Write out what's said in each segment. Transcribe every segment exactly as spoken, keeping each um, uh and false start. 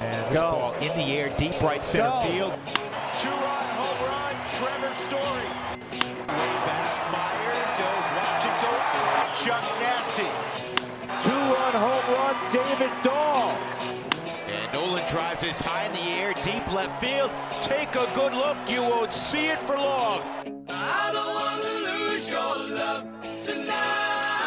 And this Go. ball in the air, deep right center Go. field. Two-run home run, Trevor Story. Way back, Myers. He'll watch it go out. Chuck Nasty. Two-run home run, David Dahl. And Nolan drives this high in the air, deep left field. Take a good look. You won't see it for long. I don't want to lose your love tonight.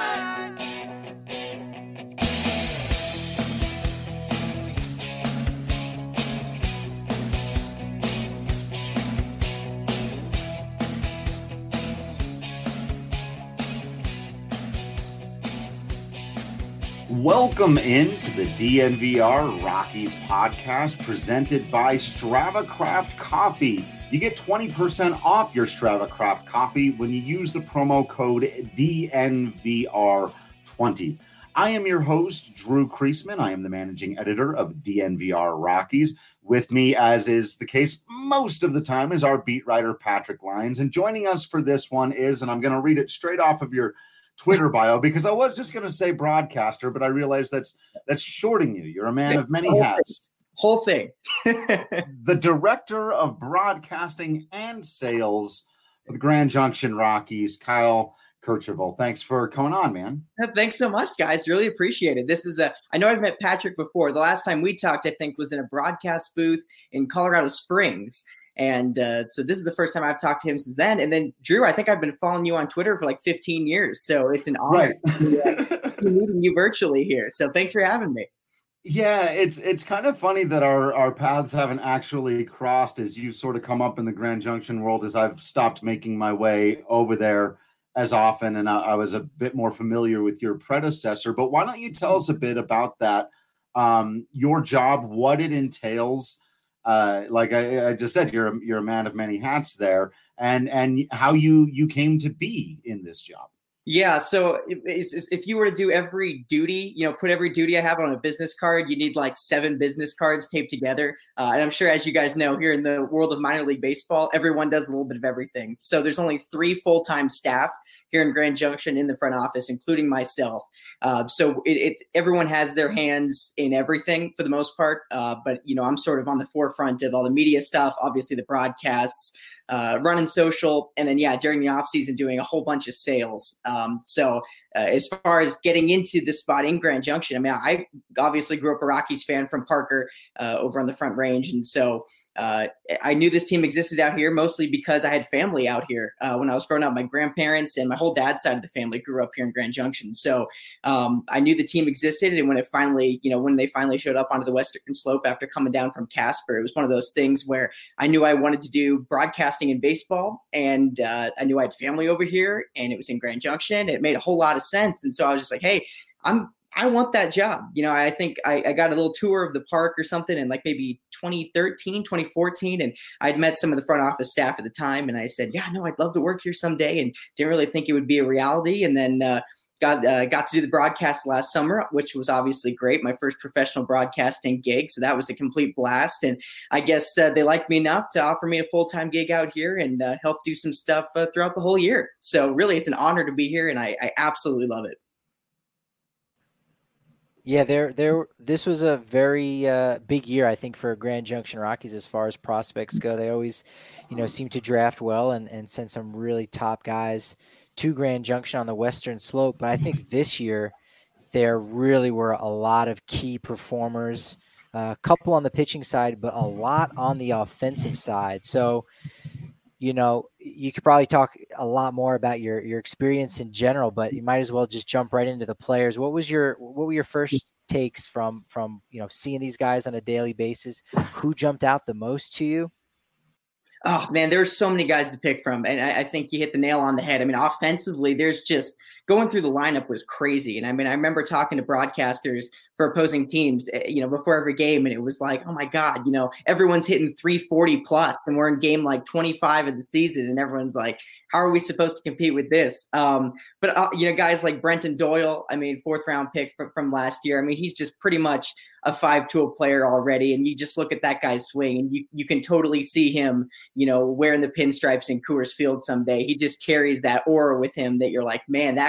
Welcome into the D N V R Rockies podcast presented by StravaCraft Coffee. You get twenty percent off your StravaCraft Coffee when you use the promo code D N V R twenty. I am your host, Drew Kreisman. I am the managing editor of D N V R Rockies. With me, as is the case most of the time, is our beat writer, Patrick Lyons. And joining us for this one is, and I'm going to read it straight off of your Twitter bio, because I was just going to say broadcaster, but I realized that's that's shorting you. You're a man of many hats. Whole thing. The director of broadcasting and sales for the Grand Junction Rockies, Kyle Kercheval. Thanks for coming on, man. Thanks so much, guys. Really appreciate it. This is a, I know I've met Patrick before. The last time we talked, I think, was in a broadcast booth in Colorado Springs. And uh, so this is the first time I've talked to him since then. And then, Drew, I think I've been following you on Twitter for like fifteen years. So it's an honor right. to uh, be meeting you virtually here. So thanks for having me. Yeah, it's it's kind of funny that our, our paths haven't actually crossed as you've sort of come up in the Grand Junction world as I've stopped making my way over there as often. And I, I was a bit more familiar with your predecessor. But why don't you tell us a bit about that, um, your job, what it entails? Uh, like I, I just said, you're a, you're a man of many hats there, and and how you you came to be in this job. Yeah. So if, if you were to do every duty, you know, put every duty I have on a business card, you need like seven business cards taped together. Uh, and I'm sure, as you guys know, here in the world of minor league baseball, everyone does a little bit of everything. So there's only three full-time staff here in Grand Junction in the front office, including myself. Uh, so it, it everyone has their hands in everything for the most part. Uh, but, you know, I'm sort of on the forefront of all the media stuff, obviously the broadcasts, uh, running social, and then, yeah, during the off season, doing a whole bunch of sales. Um, so uh, as far as getting into this spot in Grand Junction, I mean, I obviously grew up a Rockies fan from Parker uh, over on the Front Range. And so Uh, I knew this team existed out here mostly because I had family out here. Uh, when I was growing up, my grandparents and my whole dad's side of the family grew up here in Grand Junction. So um, I knew the team existed. And when it finally, you know, when they finally showed up onto the Western Slope after coming down from Casper, it was one of those things where I knew I wanted to do broadcasting in baseball. And uh, I knew I had family over here and it was in Grand Junction. It made a whole lot of sense. And so I was just like, hey, I'm I want that job. You know, I think I, I got a little tour of the park or something in like maybe twenty thirteen, twenty fourteen. And I'd met some of the front office staff at the time. And I said, yeah, no, I'd love to work here someday. And didn't really think it would be a reality. And then uh, got uh, got to do the broadcast last summer, which was obviously great. My first professional broadcasting gig. So that was a complete blast. And I guess uh, they liked me enough to offer me a full-time gig out here and uh, help do some stuff uh, throughout the whole year. So really, it's an honor to be here. And I, I absolutely love it. Yeah, there, there. This was a very uh, big year, I think, for Grand Junction Rockies as far as prospects go. They always, you know, seem to draft well and, and send some really top guys to Grand Junction on the Western Slope. But I think this year there really were a lot of key performers, uh, a couple on the pitching side, but a lot on the offensive side. So, you know, you could probably talk a lot more about your, your experience in general, but you might as well just jump right into the players. What was your, what were your first takes from, from, you know, seeing these guys on a daily basis? Who jumped out the most to you? Oh man, there's so many guys to pick from. And I, I think you hit the nail on the head. I mean, offensively, there's just going through the lineup was crazy. And I mean, I remember talking to broadcasters for opposing teams, you know, before every game. And it was like, oh my God, you know, everyone's hitting three forty plus and we're in game like twenty-five of the season. And everyone's like, how are we supposed to compete with this? Um, but, uh, you know, guys like Brenton Doyle, I mean, fourth round pick from, from last year. I mean, he's just pretty much a five-tool player already. And you just look at that guy's swing and you, you can totally see him, you know, wearing the pinstripes in Coors Field someday. He just carries that aura with him that you're like, man, that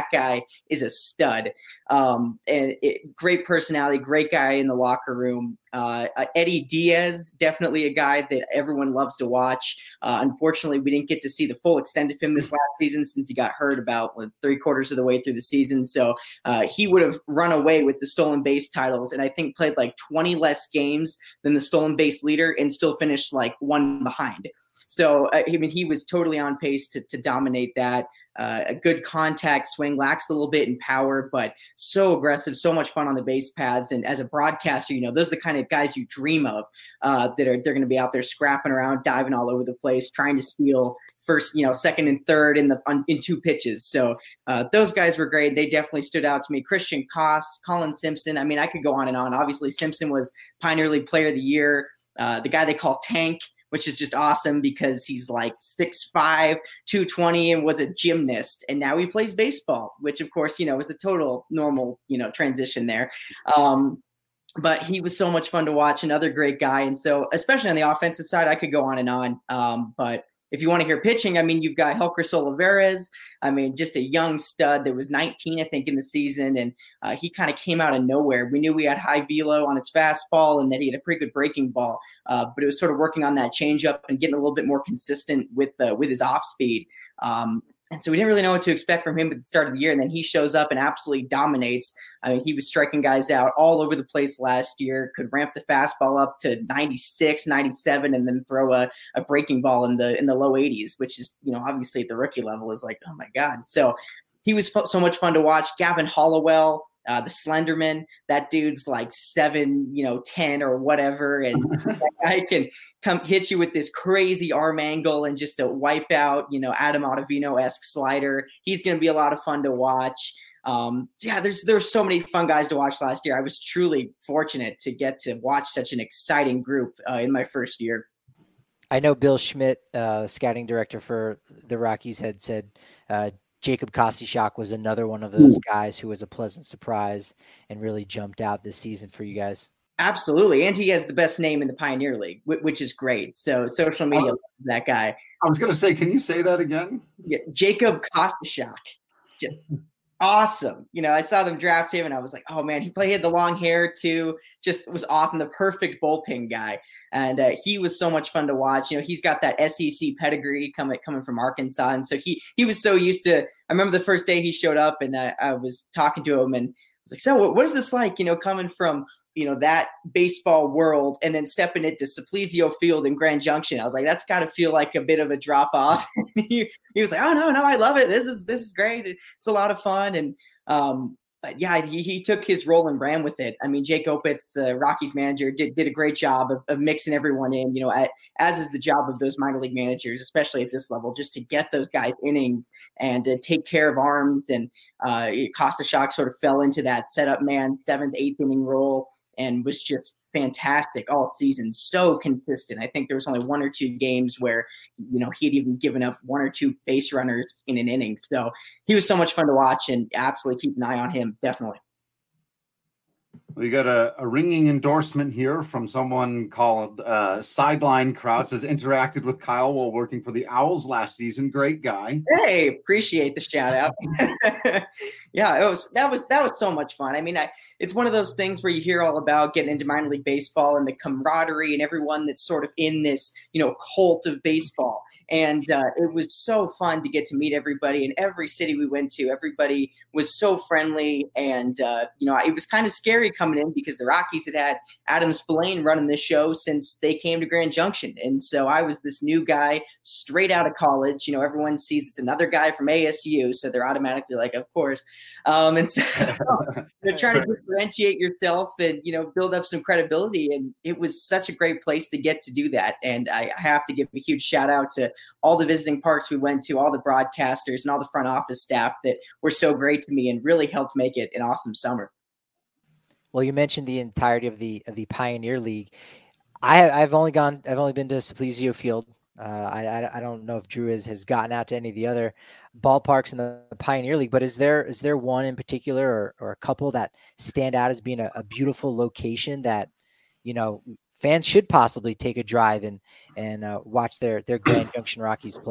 guy is a stud. Um, and it, great personality, great guy in the locker room. Uh, uh, Eddie Diaz, definitely a guy that everyone loves to watch. Uh, unfortunately, we didn't get to see the full extent of him this last season since he got hurt about what, three quarters of the way through the season. So uh, he would have run away with the stolen base titles, and I think played like twenty less games than the stolen base leader and still finished like one behind. So, I mean, he was totally on pace to, to dominate that. Uh, a good contact swing, lacks a little bit in power, but so aggressive, so much fun on the base paths. And as a broadcaster, you know, those are the kind of guys you dream of uh, that are they're going to be out there scrapping around, diving all over the place, trying to steal first, you know, second and third in the on, in two pitches. So uh, those guys were great. They definitely stood out to me. Christian Koss, Colin Simpson. I mean, I could go on and on. Obviously, Simpson was Pioneer League Player of the Year. Uh, the guy they call Tank, which is just awesome because he's like six five, two twenty and was a gymnast. And now he plays baseball, which of course, you know, is a total normal, you know, transition there. Um, but he was so much fun to watch, another great guy. And so, especially on the offensive side, I could go on and on. Um, but if you want to hear pitching, I mean, you've got Helker Olivares. I mean, just a young stud that was nineteen, I think, in the season. And uh, he kind of came out of nowhere. We knew we had high velo on his fastball and that he had a pretty good breaking ball. Uh, but it was sort of working on that changeup and getting a little bit more consistent with uh, with his off speed. Um, And so we didn't really know what to expect from him at the start of the year. And then he shows up and absolutely dominates. I mean, he was striking guys out all over the place last year, could ramp the fastball up to ninety-six, ninety-seven, and then throw a, a breaking ball in the in the low eighties, which is, you know, obviously at the rookie level is like, oh my God. So he was f- so much fun to watch. Gavin Hollowell, Uh, the Slenderman, that dude's like seven, you know, ten or whatever. And that guy can come hit you with this crazy arm angle and just a wipe out, you know, Adam Ottavino-esque slider. He's going to be a lot of fun to watch. Um, so yeah, there's, there's so many fun guys to watch last year. I was truly fortunate to get to watch such an exciting group uh, in my first year. I know Bill Schmidt, uh, scouting director for the Rockies, had said, uh, Jacob Kostichak was another one of those guys who was a pleasant surprise and really jumped out this season for you guys. Absolutely. And he has the best name in the Pioneer League, which is great. So social media loves that guy. I was going to say, can you say that again? Yeah, Jacob Kostichak. Just awesome. You know, I saw them draft him and I was like, oh man, he played, he had the long hair too. Just was awesome. The perfect bullpen guy. And uh, he was so much fun to watch. You know, he's got that S E C pedigree coming, coming from Arkansas. And so he, he was so used to, I remember the first day he showed up and I, I was talking to him and I was like, so what, what is this like, you know, coming from, you know, that baseball world and then stepping into Simplesio Field in Grand Junction. I was like, that's got to feel like a bit of a drop off. he, he was like, oh no, no, I love it. This is, this is great. It's a lot of fun. And um, but yeah, he, he took his role and ran with it. I mean, Jake Opitz, the Rockies manager, did, did a great job of, of mixing everyone in, you know, at, as is the job of those minor league managers, especially at this level, just to get those guys innings and to take care of arms. And uh, Kostichak sort of fell into that setup man, seventh, eighth inning role, and was just fantastic all season. So consistent. I think there was only one or two games where, you know, he had even given up one or two base runners in an inning. So he was so much fun to watch and absolutely keep an eye on him. Definitely. We got a, a ringing endorsement here from someone called uh, Sideline Crowd. Says interacted with Kyle while working for the Owls last season. Great guy. Hey, appreciate the shout out. Yeah, it was that was that was so much fun. I mean, I it's one of those things where you hear all about getting into minor league baseball and the camaraderie and everyone that's sort of in this, you know, cult of baseball. And uh, it was so fun to get to meet everybody in every city we went to. Everybody was so friendly. And, uh, you know, it was kind of scary coming in because the Rockies had had Adam Spillane running this show since they came to Grand Junction. And so I was this new guy straight out of college. You know, everyone sees it's another guy from A S U. So they're automatically like, of course. Um, and so they're trying to differentiate yourself and, you know, build up some credibility. And it was such a great place to get to do that. And I, I have to give a huge shout out to all the visiting parks we went to, all the broadcasters and all the front office staff that were so great to me and really helped make it an awesome summer. Well, you mentioned the entirety of the of the Pioneer League. I, I've only gone, I've only been to Simplesio Field. Uh, I, I I don't know if Drew has, has gotten out to any of the other ballparks in the Pioneer League, but is there is there one in particular or, or a couple that stand out as being a, a beautiful location that, you know, fans should possibly take a drive and and uh, watch their their Grand Junction Rockies play?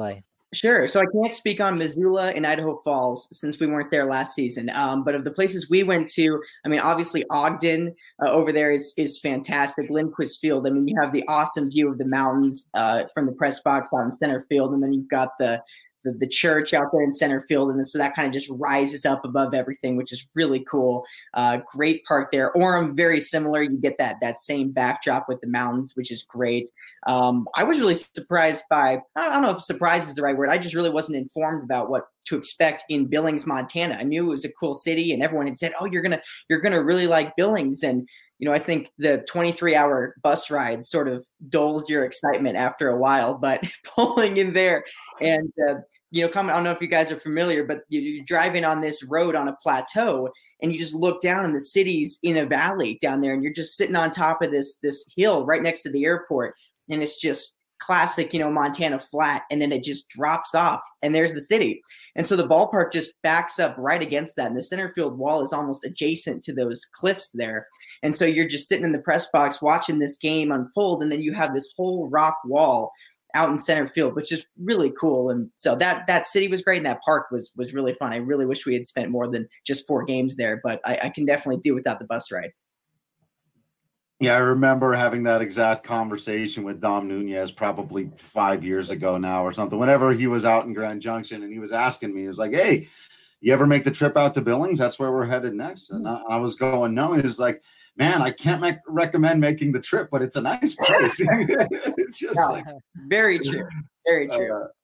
Sure. So I can't speak on Missoula and Idaho Falls since we weren't there last season. Um, but of the places we went to, I mean, obviously Ogden uh, over there is is fantastic. Lindquist Field. I mean, you have the awesome view of the mountains uh, from the press box out in center field, and then you've got the The, the church out there in center field. And so that kind of just rises up above everything, which is really cool. Uh, great park there. Orem, very similar. You get that that same backdrop with the mountains, which is great. Um, I was really surprised by, I don't know if surprise is the right word. I just really wasn't informed about what to expect in Billings, Montana. I knew it was a cool city and everyone had said, oh, you're going to, you're going to really like Billings. And, you know, I think the twenty-three hour bus ride sort of dulls your excitement after a while, but pulling in there and, uh, you know, come, I don't know if you guys are familiar, but you're driving on this road on a plateau and you just look down and the city's in a valley down there and you're just sitting on top of this, this hill right next to the airport. And it's just classic, you know, Montana flat. And then it just drops off and there's the city. And so the ballpark just backs up right against that. And the center field wall is almost adjacent to those cliffs there. And so you're just sitting in the press box watching this game unfold. And then you have this whole rock wall out in center field, which is really cool. And so that, that city was great. And that park was, was really fun. I really wish we had spent more than just four games there, but I, I can definitely do without the bus ride. Yeah, I remember having that exact conversation with Dom Nunez probably five years ago now or something, whenever he was out in Grand Junction and he was asking me, he was like, hey, you ever make the trip out to Billings? That's where we're headed next. And I, I was going, no. He was like, man, I can't make, recommend making the trip, but it's a nice place. It's just yeah, like, very true. Very true. Uh,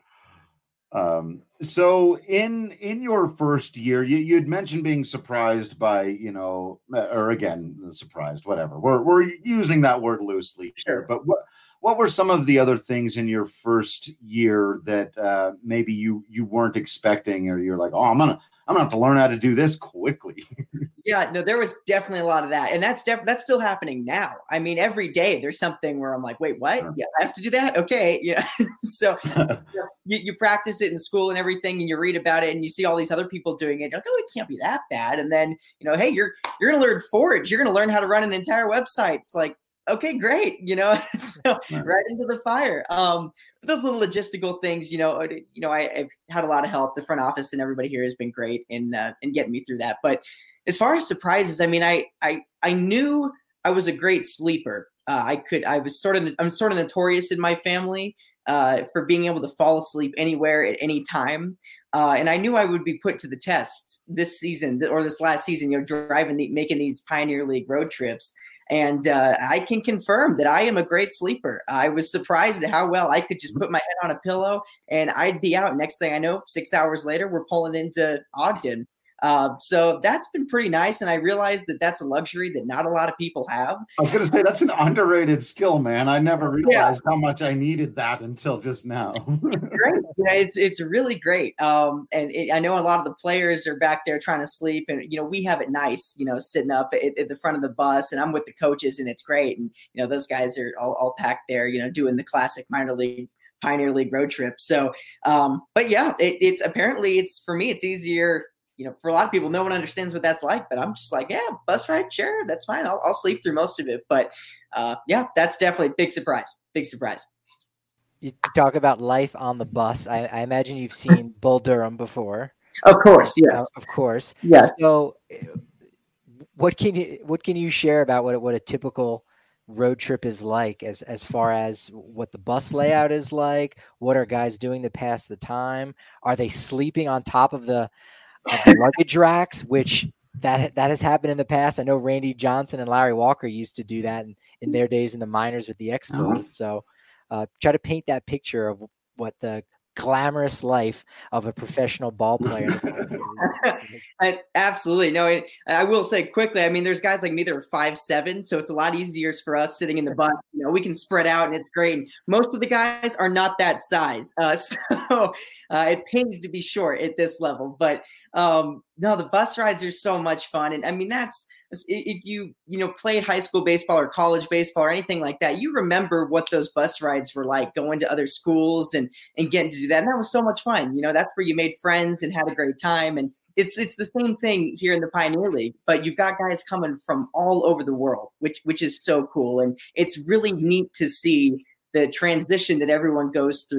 um, so in, in your first year, you, you'd mentioned being surprised by, you know, or again, surprised, whatever. We're, we're using that word loosely here, but what, what were some of the other things in your first year that uh, maybe you, you weren't expecting, or you're like, oh, I'm going to, I'm gonna have to learn how to do this quickly. Yeah, no, there was definitely a lot of that. And that's def- that's still happening now. I mean, every day there's something where I'm like, wait, what? Yeah, I have to do that? Okay. Yeah. So you, you practice it in school and everything, and you read about it and you see all these other people doing it. You're like, oh, it can't be that bad. And then, you know, hey, you're you're gonna learn Forge. You're gonna learn how to run an entire website. It's like, okay, great. You know, so right into the fire. Um, but those little logistical things, you know, you know, I, I've had a lot of help. The front office and everybody here has been great in uh, in getting me through that. But as far as surprises, I mean, I I I knew I was a great sleeper. Uh, I could. I was sort of. I'm sort of notorious in my family uh, for being able to fall asleep anywhere at any time. Uh, and I knew I would be put to the test this season or this last season. You know, driving, the, making these Pioneer League road trips. And uh, I can confirm that I am a great sleeper. I was surprised at how well I could just put my head on a pillow and I'd be out. Next thing I know, six hours later, we're pulling into Ogden. Uh, so that's been pretty nice. And I realized that that's a luxury that not a lot of people have. I was going to say, that's an underrated skill, man. I never realized yeah. how much I needed that until just now. It's great. Yeah, it's, it's really great. Um, and it, I know a lot of the players are back there trying to sleep, and, you know, we have it nice, you know, sitting up at, at the front of the bus, and I'm with the coaches, and it's great. And, you know, those guys are all, all packed there, you know, doing the classic minor league Pioneer League road trip. So, um, but yeah, it, it's apparently it's, for me, it's easier. You know, for a lot of people, no one understands what that's like, but I'm just like, yeah, bus ride, sure, that's fine. I'll, I'll sleep through most of it. But uh, yeah, that's definitely a big surprise. Big surprise. You talk about life on the bus. I, I imagine you've seen Bull Durham before. Of course, yes. Uh, of course. Yes. So, what can you what can you share about what what a typical road trip is like, as as far as what the bus layout is like? What are guys doing to pass the time? Are they sleeping on top of the Of the luggage racks, which that that has happened in the past? I know Randy Johnson and Larry Walker used to do that in, in their days in the minors with the Expos. Uh-huh. So uh, try to paint that picture of what the glamorous life of a professional ball player. I, absolutely. No, I, I will say quickly, I mean, there's guys like me that are five seven, so it's a lot easier for us sitting in the bus. You know, we can spread out and it's great. And most of the guys are not that size. Uh, so uh, it pays to be short at this level. But um, no, the bus rides are so much fun. And I mean, that's, if you, you know, played high school baseball or college baseball or anything like that, you remember what those bus rides were like, going to other schools and, and getting to do that. And that was so much fun. You know, that's where you made friends and had a great time. And it's, it's the same thing here in the Pioneer League, but you've got guys coming from all over the world, which, which is so cool. And it's really neat to see the transition that everyone goes through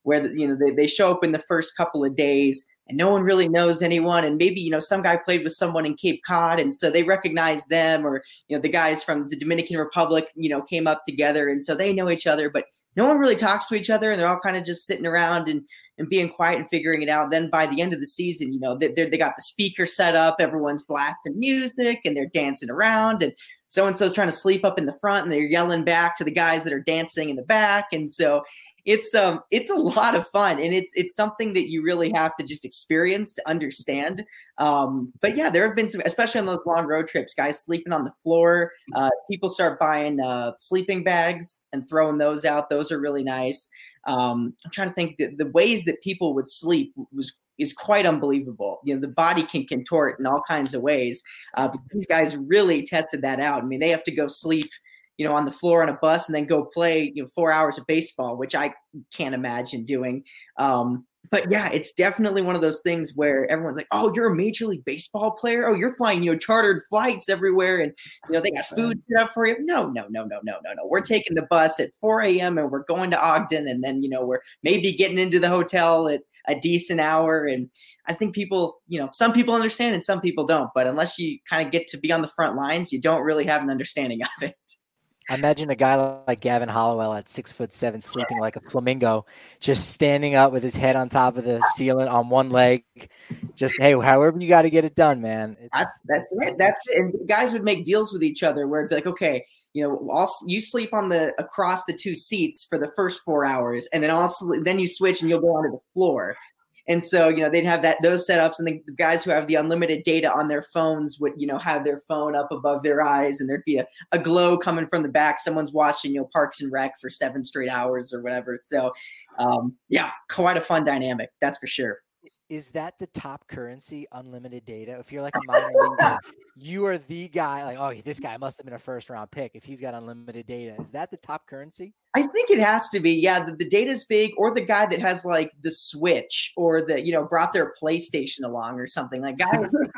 where, you know, they, they show up in the first couple of days and no one really knows anyone. And maybe, you know, some guy played with someone in Cape Cod, and so they recognize them, or, you know, the guys from the Dominican Republic, you know, came up together, and so they know each other, but no one really talks to each other, and they're all kind of just sitting around and, and being quiet and figuring it out. Then by the end of the season, you know, they they got the speaker set up, everyone's blasting music and they're dancing around, and so-and-so's trying to sleep up in the front and they're yelling back to the guys that are dancing in the back. And so it's um it's a lot of fun, and it's it's something that you really have to just experience to understand. Um, but yeah, there have been some, especially on those long road trips, guys sleeping on the floor. Uh, people start buying uh, sleeping bags and throwing those out. Those are really nice. Um, I'm trying to think that the ways that people would sleep was is quite unbelievable. You know, the body can contort in all kinds of ways. Uh, but these guys really tested that out. I mean, they have to go sleep, you know, on the floor on a bus and then go play, you know, four hours of baseball, which I can't imagine doing. Um, but yeah, it's definitely one of those things where everyone's like, oh, you're a Major League Baseball player? Oh, you're flying, you know, chartered flights everywhere, and, you know, they got food set up for you. No, no, no, no, no, no, no. We're taking the bus at four a.m. and we're going to Ogden, and then, you know, we're maybe getting into the hotel at a decent hour. And I think people, you know, some people understand and some people don't, but unless you kind of get to be on the front lines, you don't really have an understanding of it. I imagine a guy like Gavin Hollowell at six foot seven, sleeping like a flamingo, just standing up with his head on top of the ceiling on one leg. Just, hey, however you got to get it done, man. It's, that's, that's it. That's it. And guys would make deals with each other where it'd be like, okay, you know, I'll, you sleep on the across the two seats for the first four hours, and then also then you switch and you'll go onto the floor. And so, you know, they'd have that those setups, and the, the guys who have the unlimited data on their phones would, you know, have their phone up above their eyes, and there'd be a, a glow coming from the back. Someone's watching, you know, Parks and Rec for seven straight hours or whatever. So, um, yeah, quite a fun dynamic, that's for sure. Is that the top currency, unlimited data? If you're like a minor leaguer, you are the guy, like, oh, this guy must have been a first round pick if he's got unlimited data. Is that the top currency? I think it has to be. Yeah, the, the data's big, or the guy that has like the Switch, or the, you know, brought their PlayStation along or something. Like guys,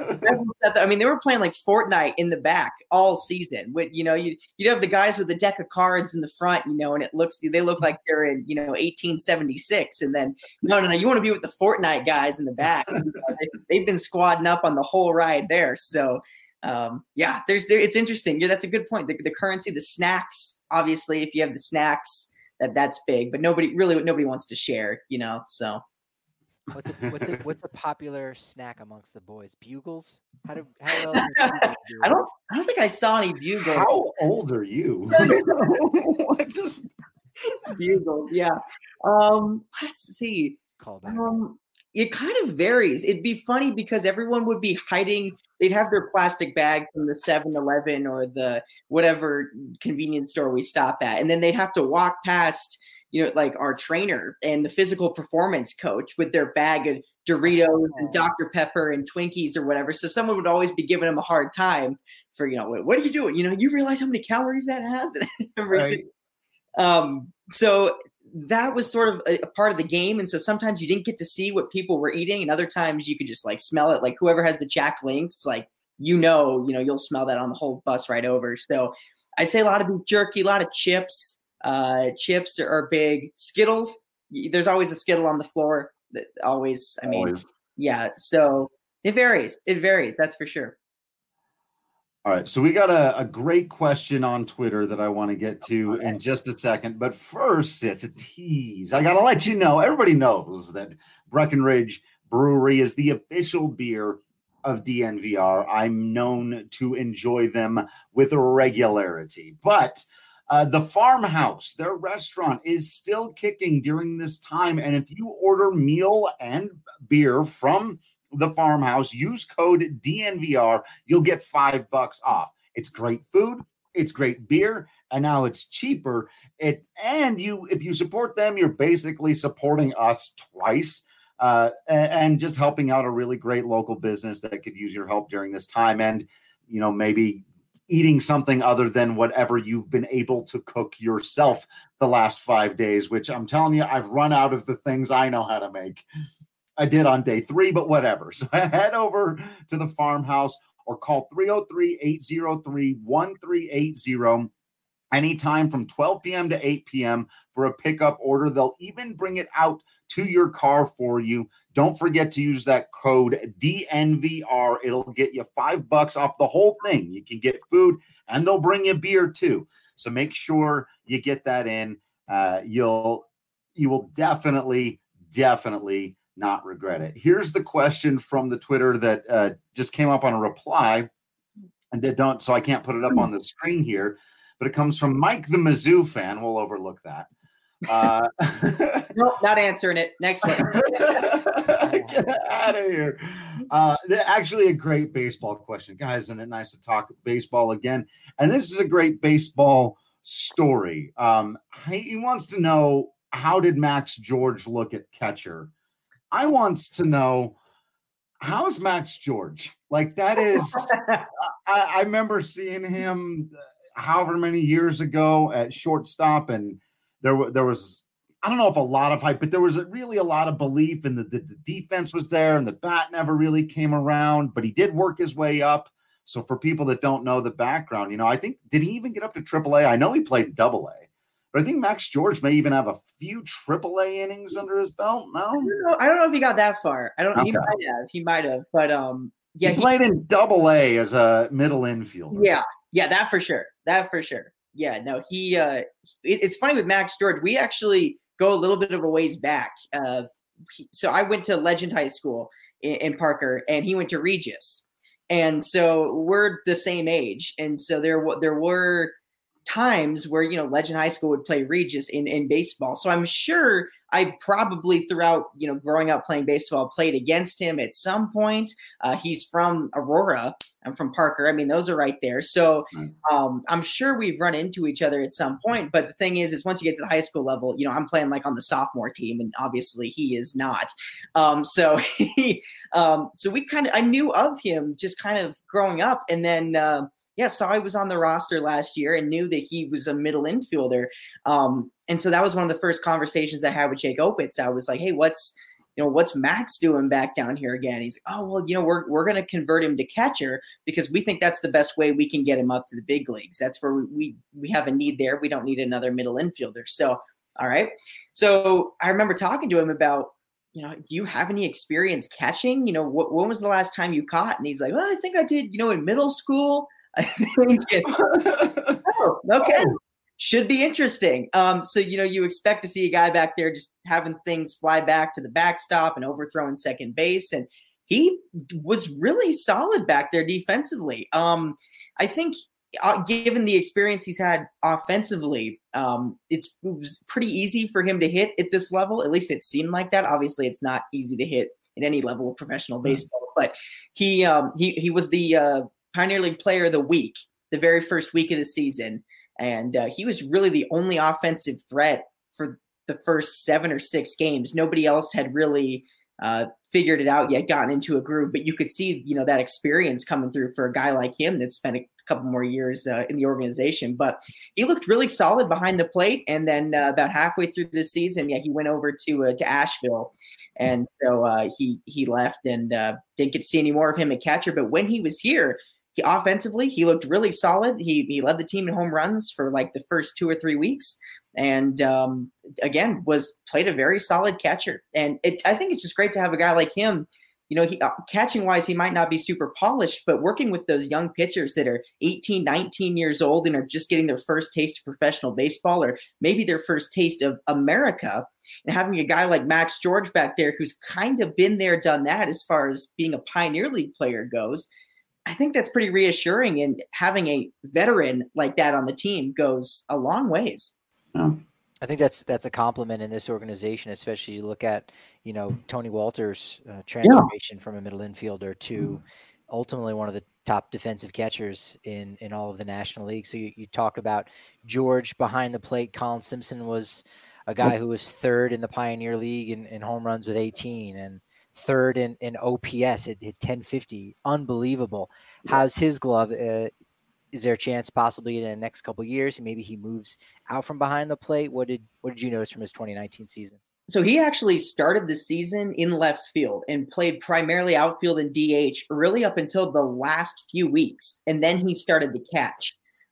I mean, they were playing like Fortnite in the back all season. With, you know, you you'd have the guys with the deck of cards in the front, you know, and it looks they look like they're in, you know, eighteen seventy-six, and then no, no, no, you want to be with the Fortnite guys in the back. You know, they, they've been squadding up on the whole ride there. So. Um, yeah, there's there. It's interesting. Yeah, that's a good point. The, the currency, the snacks. Obviously, if you have the snacks, that that's big. But nobody really, nobody wants to share. You know. So, what's a, what's a, what's a popular snack amongst the boys? Bugles? How do? How well do I don't. I don't think I saw any bugles. How old are you? What just bugles? Yeah. Um. Let's see. Call back. Um. It kind of varies. It'd be funny because everyone would be hiding. They'd have their plastic bag from the seven eleven or the whatever convenience store we stop at. And then they'd have to walk past, you know, like our trainer and the physical performance coach with their bag of Doritos and Doctor Pepper and Twinkies or whatever. So someone would always be giving them a hard time for, you know, what are you doing? You know, you realize how many calories that has and everything. Right. Um, so that was sort of a, a part of the game. And so sometimes you didn't get to see what people were eating, and other times you could just like smell it. Like whoever has the Jack Links, like, you know, you know, you'll smell that on the whole bus right over. So I'd say a lot of beef jerky, a lot of chips. Uh, chips are, are big. Skittles. There's always a Skittle on the floor. That always, I mean, always. Yeah. So it varies. It varies. That's for sure. All right, so we got a, a great question on Twitter that I want to get to in just a second. But first, it's a tease. I got to let you know, everybody knows that Breckenridge Brewery is the official beer of D N V R. I'm known to enjoy them with regularity. But uh, the Farmhouse, their restaurant, is still kicking during this time. And if you order meal and beer from the Farmhouse, use code D N V R, you'll get five bucks off. It's great food, it's great beer, and now it's cheaper. It and you, if you support them, you're basically supporting us twice, uh, and, and just helping out a really great local business that could use your help during this time. And you know, maybe eating something other than whatever you've been able to cook yourself the last five days. Which I'm telling you, I've run out of the things I know how to make. I did on day three, but whatever. So head over to the Farmhouse or call three oh three, eight oh three, one three eight zero anytime from twelve p.m. to eight p.m. for a pickup order. They'll even bring it out to your car for you. Don't forget to use that code D N V R. It'll get you five bucks off the whole thing. You can get food and they'll bring you beer too. So make sure you get that in. Uh, you'll, you will definitely, definitely not regret it. Here's the question from the Twitter that uh, just came up on a reply, and they don't, so I can't put it up on the screen here, but it comes from Mike the Mizzou fan. We'll overlook that. Uh, nope, not answering it. Next one. Get out of here. Uh, actually, a great baseball question, guys. Isn't it nice to talk baseball again? And this is a great baseball story. Um, he wants to know, how did Max George look at catcher? I wants to know, how's Max George? Like, that is, I, I remember seeing him however many years ago at shortstop, and there, there was, I don't know if a lot of hype, but there was a, really a lot of belief in the, the, the defense was there, and the bat never really came around, but he did work his way up. So for people that don't know the background, you know, I think, did he even get up to triple A? I know he played double A, but I think Max George may even have a few triple A innings under his belt. No, I don't know, I don't know if he got that far. I don't. Okay. He might have. He might have. But um, yeah, he played he, in double A as a middle infielder. Yeah, yeah, that for sure. That for sure. Yeah, no, he. Uh, it, it's funny with Max George. We actually go a little bit of a ways back. Uh, he, so I went to Legend High School in, in Parker, and he went to Regis. And so we're the same age. And so there, there were times where, you know, Legend High School would play Regis in, in baseball. So I'm sure I probably throughout, you know, growing up playing baseball, played against him at some point. Uh, he's from Aurora. I'm from Parker. I mean, those are right there. So um, I'm sure we've run into each other at some point. But the thing is, is once you get to the high school level, you know, I'm playing like on the sophomore team, and obviously he is not. Um, so he, um, so we kind of, I knew of him just kind of growing up, and then. Uh, Yeah, saw he was on the roster last year and knew that he was a middle infielder. Um, and so that was one of the first conversations I had with Jake Opitz. I was like, hey, what's, you know, what's Max doing back down here again? He's like, oh, well, you know, we're, we're going to convert him to catcher because we think that's the best way we can get him up to the big leagues. That's where we, we, we have a need there. We don't need another middle infielder. So, all right. So I remember talking to him about, you know, do you have any experience catching? You know, wh- when was the last time you caught? And he's like, well, I think I did, you know, in middle school. I think it, oh, okay. Should be interesting. Um, so, you know, you expect to see a guy back there just having things fly back to the backstop and overthrowing second base. And he was really solid back there defensively. Um, I think uh, given the experience he's had offensively, um, it's, it was pretty easy for him to hit at this level. At least it seemed like that. Obviously, it's not easy to hit at any level of professional baseball, but he um, he he was the uh, Pioneer League Player of the Week, the very first week of the season. And uh, he was really the only offensive threat for the first seven or six games. Nobody else had really uh, figured it out yet, gotten into a groove. But you could see, you know, that experience coming through for a guy like him that spent a couple more years uh, in the organization. But he looked really solid behind the plate. And then uh, about halfway through the season, yeah, he went over to uh, to Asheville. And so uh, he he left and uh, didn't get to see any more of him at catcher. But when he was here, He, offensively, he looked really solid. He he led the team in home runs for like the first two or three weeks, and um, again was played a very solid catcher. And it, I think it's just great to have a guy like him. You know, he, uh, catching wise, he might not be super polished, but working with those young pitchers that are eighteen, nineteen years old and are just getting their first taste of professional baseball, or maybe their first taste of America, and having a guy like Max George back there who's kind of been there, done that as far as being a Pioneer League player goes. I think that's pretty reassuring, and having a veteran like that on the team goes a long ways. Yeah. I think that's that's a compliment in this organization, especially you look at, you know, Tony Walters' uh, transformation yeah. from a middle infielder to mm. ultimately one of the top defensive catchers in, in all of the National League. So you, you talk about George behind the plate. Colin Simpson was a guy who was third in the Pioneer League in, in home runs with eighteen, and third in, in O P S at, at ten fifty. Unbelievable. How's his glove? Uh, is there a chance possibly in the next couple of years maybe he moves out from behind the plate? What did what did you notice from his twenty nineteen season? So he actually started the season in left field and played primarily outfield and D H really up until the last few weeks. And then he started to catch.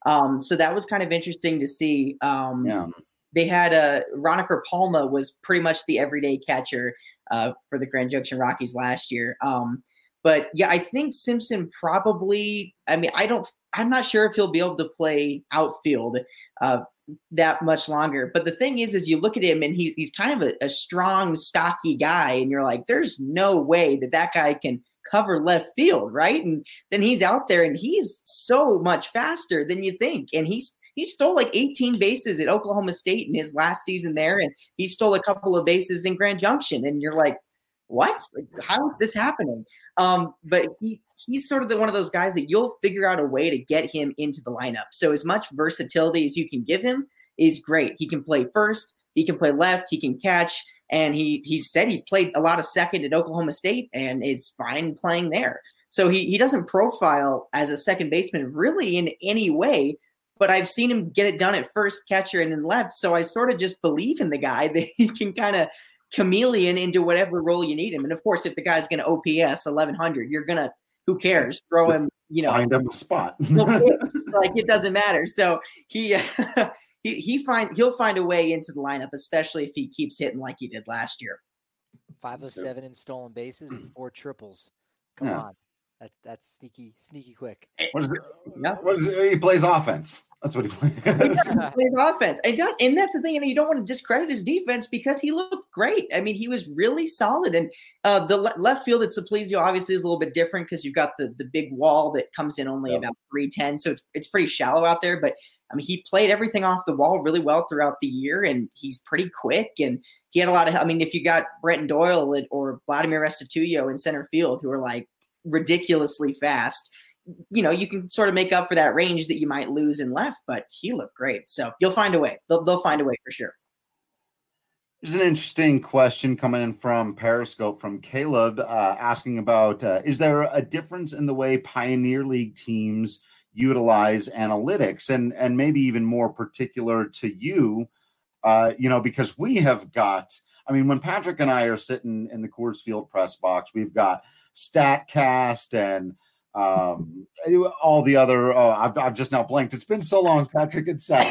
Um, so that was kind of interesting to see. Um, Yeah. They had a uh, Roniker Palma was pretty much the everyday catcher uh, for the Grand Junction Rockies last year. Um, but yeah, I think Simpson probably, I mean, I don't, I'm not sure if he'll be able to play outfield uh, that much longer. But the thing is, is you look at him and he's, he's kind of a, a strong, stocky guy. And you're like, there's no way that that guy can cover left field. Right. And then he's out there and he's so much faster than you think. And he's, he stole like eighteen bases at Oklahoma State in his last season there. And he stole a couple of bases in Grand Junction. And you're like, what? Like, how is this happening? Um, but he, he's sort of the, one of those guys that you'll figure out a way to get him into the lineup. So as much versatility as you can give him is great. He can play first, he can play left, he can catch. And he he said he played a lot of second at Oklahoma State and is fine playing there. So he, he doesn't profile as a second baseman really in any way, but I've seen him get it done at first, catcher, and then left. So I sort of just believe in the guy that he can kind of chameleon into whatever role you need him. And of course, if the guy's going to O P S eleven hundred, you're going to, who cares? Throw him, you know, find him a spot. Like it doesn't matter. So he, uh, he, he find, he'll find a way into the lineup, especially if he keeps hitting like he did last year. Five of seven in stolen bases and four triples. Come Yeah. on. That, that's sneaky, sneaky quick. What is it? Yeah. What is it? He plays offense. That's what he plays. He plays offense. It does, and that's the thing. And you don't want to discredit his defense because he looked great. I mean, he was really solid. And uh, the le- left field at Saplizio obviously is a little bit different because you've got the the big wall that comes in only Yep. about three ten, so it's it's pretty shallow out there. But I mean, he played everything off the wall really well throughout the year, and he's pretty quick. And he had a lot of. I mean, if you got Brenton Doyle or Vladimir Restituyo in center field, who are like ridiculously fast, you know, you can sort of make up for that range that you might lose in left, but he looked great. So you'll find a way. They'll, they'll find a way for sure. There's an interesting question coming in from Periscope from Caleb uh, asking about, uh, is there a difference in the way Pioneer League teams utilize analytics, and, and maybe even more particular to you, uh, you know, because we have got, I mean, when Patrick and I are sitting in the Coors Field press box, we've got StatCast and um, all the other, oh, I've, I've just now blanked. It's been so long, Patrick and Seth.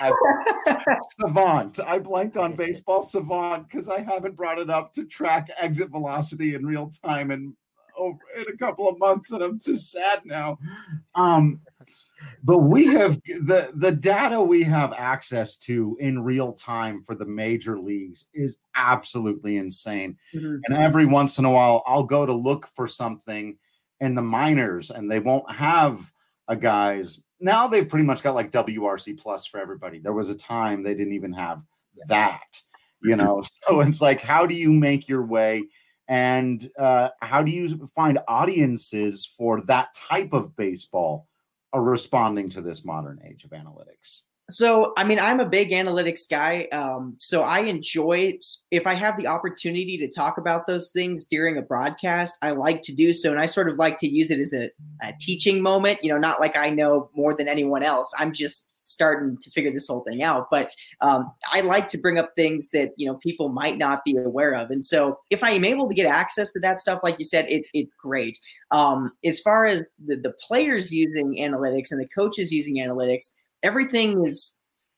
Savant. I blanked on Baseball Savant because I haven't brought it up to track exit velocity in real time in, over, in a couple of months, and I'm just sad now. Um, but we have the, the data we have access to in real time for the major leagues is absolutely insane. Mm-hmm. And every once in a while, I'll go to look for something in the minors, and they won't have a guy's. Now they've pretty much got like W R C plus for everybody. There was a time they didn't even have that, you know? So it's like, how do you make your way, and uh, how do you find audiences for that type of baseball are responding to this modern age of analytics? So, I mean, I'm a big analytics guy. Um, so I enjoy, if I have the opportunity to talk about those things during a broadcast, I like to do so. And I sort of like to use it as a, a teaching moment, you know, not like I know more than anyone else. I'm just starting to figure this whole thing out. But um, I like to bring up things that, you know, people might not be aware of. And so if I am able to get access to that stuff, like you said, it's it's great. Um, as far as the, the players using analytics and the coaches using analytics, everything is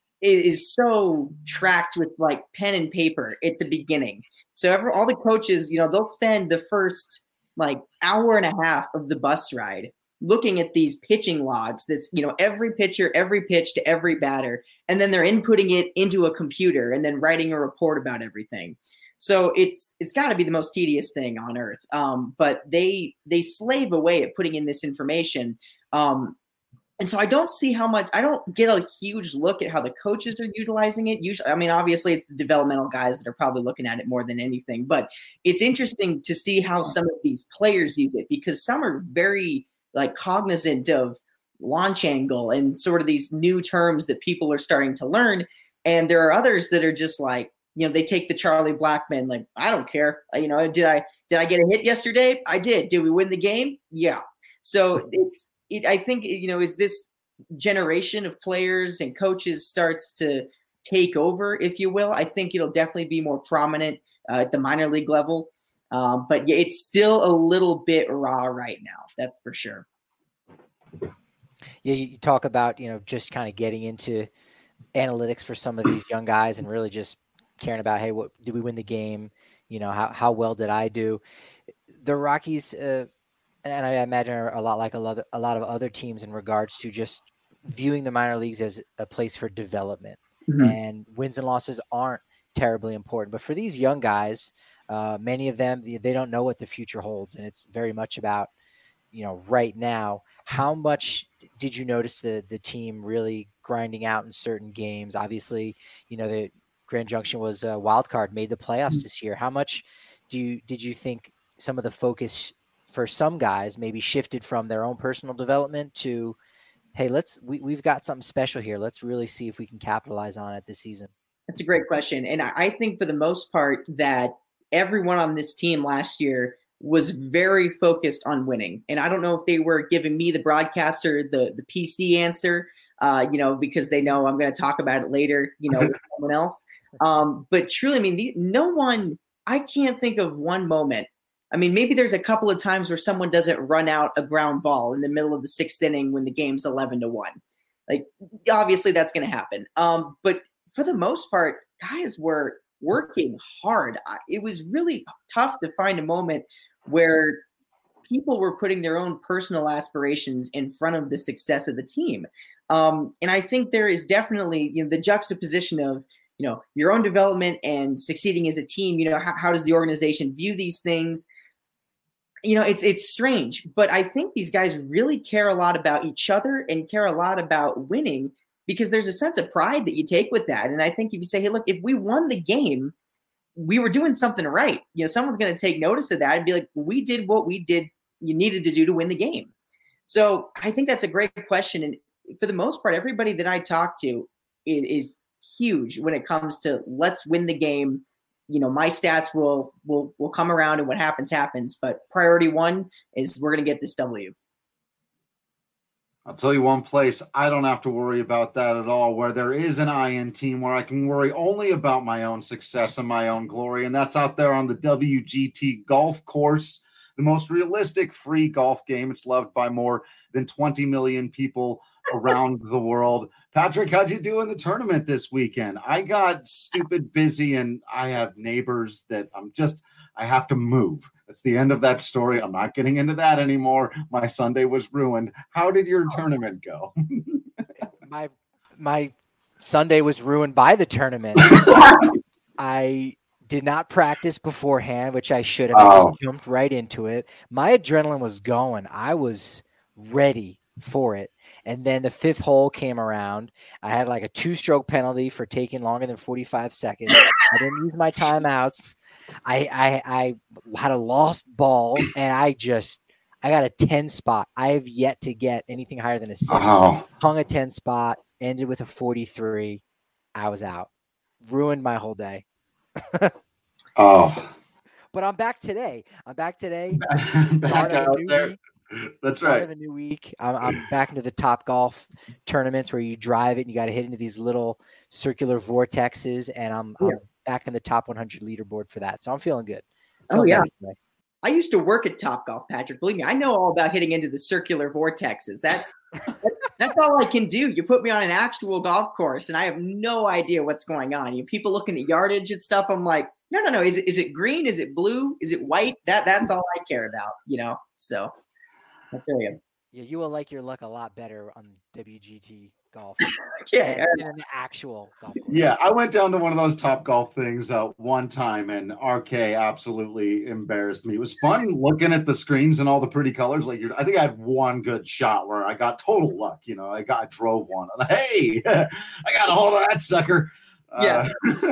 is so tracked with like pen and paper at the beginning. So every, all the coaches, you know, they'll spend the first like hour and a half of the bus ride looking at these pitching logs. That's, you know, every pitcher, every pitch to every batter, and then they're inputting it into a computer and then writing a report about everything. So it's it's got to be the most tedious thing on earth. Um, but they they slave away at putting in this information. Um, And so I don't see how much, I don't get a huge look at how the coaches are utilizing it. Usually, I mean, obviously it's the developmental guys that are probably looking at it more than anything, but it's interesting to see how some of these players use it, because some are very like cognizant of launch angle and sort of these new terms that people are starting to learn. And there are others that are just like, you know, they take the Charlie Blackmon, like, I don't care. You know, did I, did I get a hit yesterday? I did. Did we win the game? Yeah. So it's, It, I think, you know, as this generation of players and coaches starts to take over, if you will, I think it'll definitely be more prominent uh, at the minor league level. Um, but yeah, it's still a little bit raw right now. That's for sure. Yeah, you talk about, you know, just kind of getting into analytics for some of these young guys and really just caring about, hey, what did we win the game? You know, how how well did I do? The Rockies, uh, and I imagine are a lot like a lot, of, a lot of other teams in regards to just viewing the minor leagues as a place for development. Mm-hmm. And wins and losses aren't terribly important. But for these young guys, uh, many of them, they don't know what the future holds. And it's very much about, you know, right now. How much did you notice the the team really grinding out in certain games? Obviously, you know, the Grand Junction was a wild card, made the playoffs this year. How much do you did you think some of the focus for some guys maybe shifted from their own personal development to, hey, let's we, we've got something special here. Let's really see if we can capitalize on it this season? That's a great question. And I think for the most part that everyone on this team last year was very focused on winning. And I don't know if they were giving me, the broadcaster, the, the P C answer, uh, you know, because they know I'm going to talk about it later, you know, with someone else. Um, but truly, I mean, the, no one, I can't think of one moment. I mean, maybe there's a couple of times where someone doesn't run out a ground ball in the middle of the sixth inning when the game's eleven to one. Like, obviously that's going to happen. Um, but for the most part, guys were working hard. It was really tough to find a moment where people were putting their own personal aspirations in front of the success of the team. Um, and I think there is definitely, you know, the juxtaposition of, you know, your own development and succeeding as a team. You know, how, how does the organization view these things? You know, it's it's strange, but I think these guys really care a lot about each other and care a lot about winning, because there's a sense of pride that you take with that. And I think if you say, hey, look, if we won the game, we were doing something right. You know, someone's going to take notice of that and be like, we did what we did, you needed to do to win the game. So I think that's a great question. And for the most part, everybody that I talk to is, is huge when it comes to let's win the game. You know, my stats will, will, will come around and what happens, happens. But priority one is we're going to get this W. I'll tell you one place I don't have to worry about that at all, where there is an I N team where I can worry only about my own success and my own glory, and that's out there on the W G T golf course, the most realistic free golf game. It's loved by more than twenty million people around the world. Patrick, how'd you do in the tournament this weekend? I got stupid busy, and I have neighbors that I'm just – I have to move. That's the end of that story. I'm not getting into that anymore. My Sunday was ruined. How did your tournament go? my my Sunday was ruined by the tournament. I did not practice beforehand, which I should have. Oh. I just jumped right into it. My adrenaline was going. I was ready for it. And then the fifth hole came around. I had like a two-stroke penalty for taking longer than forty-five seconds. I didn't use my timeouts. I, I I had a lost ball, and I just I got a ten spot. I have yet to get anything higher than a six. Oh. Hung a ten spot, ended with a forty-three. I was out. Ruined my whole day. Oh. But I'm back today. I'm back today. Back out there. Week. That's right. Of a new week. I'm, I'm back into the Top Golf tournaments where you drive it and you got to hit into these little circular vortexes, and I'm, yeah. I'm back in the top one hundred leaderboard for that. So I'm feeling good. I'm feeling oh yeah. I used to work at Top Golf, Patrick. Believe me, I know all about hitting into the circular vortexes. That's, that's that's all I can do. You put me on an actual golf course, and I have no idea what's going on. You know, people looking at yardage and stuff. I'm like, no, no, no. Is it is it green? Is it blue? Is it white? That that's all I care about. You know. So I feel you. Yeah, you will like your luck a lot better on W G T golf. yeah, than an actual golf course. Yeah, I went down to one of those Top Golf things uh, one time, and R K absolutely embarrassed me. It was fun looking at the screens and all the pretty colors. Like, you're, I think I had one good shot where I got total luck. You know, I got I drove one. I'm like, hey, I got a hold of that sucker. Yeah.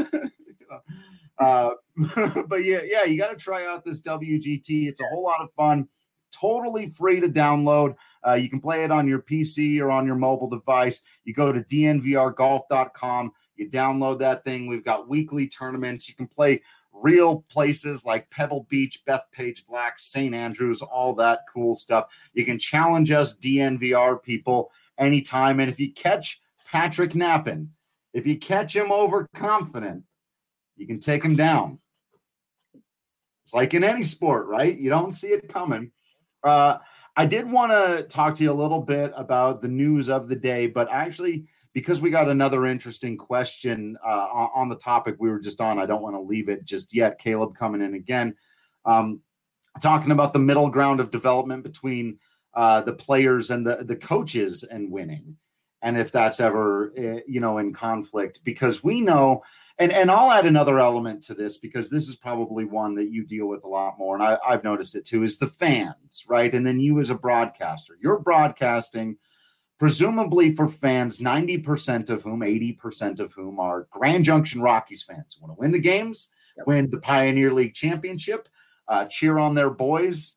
Uh, uh, but yeah, yeah, you got to try out this W G T. It's a whole lot of fun. Totally free to download. Uh, you can play it on your P C or on your mobile device. You go to D N V R golf dot com. You download that thing. We've got weekly tournaments. You can play real places like Pebble Beach, Bethpage Black, Saint Andrews, all that cool stuff. You can challenge us D N V R people anytime. And if you catch Patrick napping, if you catch him overconfident, you can take him down. It's like in any sport, right? You don't see it coming. Uh, I did want to talk to you a little bit about the news of the day, but actually, because we got another interesting question uh, on the topic we were just on, I don't want to leave it just yet. Caleb coming in again, um, talking about the middle ground of development between uh, the players and the, the coaches and winning. And if that's ever, uh, you know, in conflict, because we know, and, and I'll add another element to this, because this is probably one that you deal with a lot more. And I, I've noticed it too, is the fans, right? And then you as a broadcaster, you're broadcasting presumably for fans, ninety percent of whom, eighty percent of whom are Grand Junction Rockies fans who want to win the games, yep. win the Pioneer League championship, uh, cheer on their boys.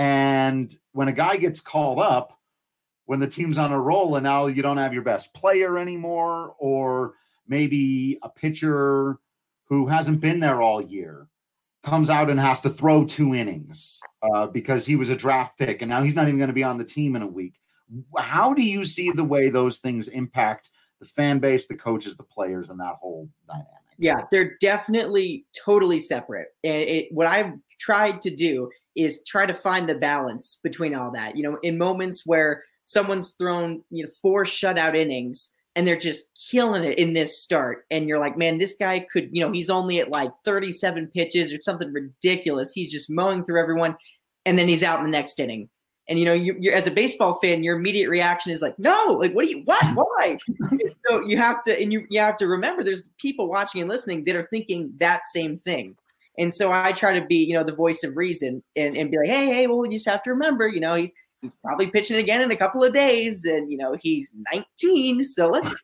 And when a guy gets called up, when the team's on a roll and now you don't have your best player anymore, or maybe a pitcher who hasn't been there all year comes out and has to throw two innings uh, because he was a draft pick and now he's not even going to be on the team in a week. How do you see the way those things impact the fan base, the coaches, the players, and that whole dynamic? Yeah, they're definitely totally separate. And it, what I've tried to do is try to find the balance between all that. You know, in moments where someone's thrown you know, four shutout innings and they're just killing it in this start, and you're like, man, this guy could, you know, he's only at like thirty-seven pitches or something ridiculous. He's just mowing through everyone, and then he's out in the next inning. And, you know, you, you're as a baseball fan, your immediate reaction is like, no, like, what do you, what, why? So you have to, and you, you have to remember there's people watching and listening that are thinking that same thing. And so I try to be, you know, the voice of reason and, and be like, hey, hey, well, you just have to remember, you know, he's, he's probably pitching again in a couple of days and, you know, he's nineteen. So let's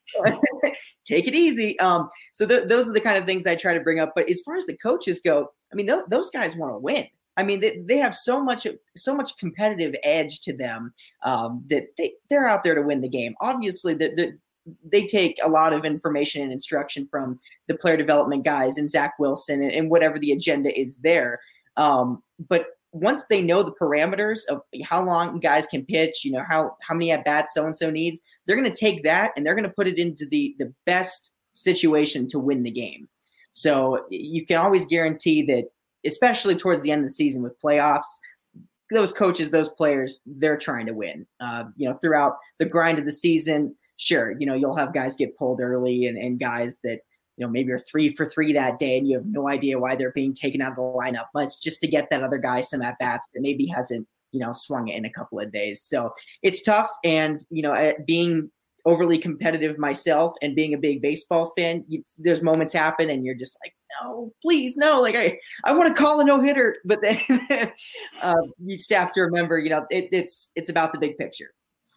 take it easy. Um, so th- those are the kind of things I try to bring up. But as far as the coaches go, I mean, th- those guys want to win. I mean, they, they have so much, so much competitive edge to them um, that they, they're out there to win the game. Obviously, the, the, they take a lot of information and instruction from the player development guys and Zach Wilson and, and whatever the agenda is there. Um, but once they know the parameters of how long guys can pitch, you know, how, how many at bats so-and-so needs, they're going to take that and they're going to put it into the, the best situation to win the game. So you can always guarantee that, especially towards the end of the season with playoffs, those coaches, those players, they're trying to win. Uh, you know, throughout the grind of the season, sure, you know, you'll have guys get pulled early and, and guys that, you know, maybe are three for three that day and you have no idea why they're being taken out of the lineup, but it's just to get that other guy some at-bats that maybe hasn't, you know, swung it in a couple of days. So it's tough. And, you know, being overly competitive myself and being a big baseball fan, you, there's moments happen and you're just like, no, please, no. Like I, I want to call a no hitter, but then uh, you just have to remember, you know, it, it's, it's about the big picture.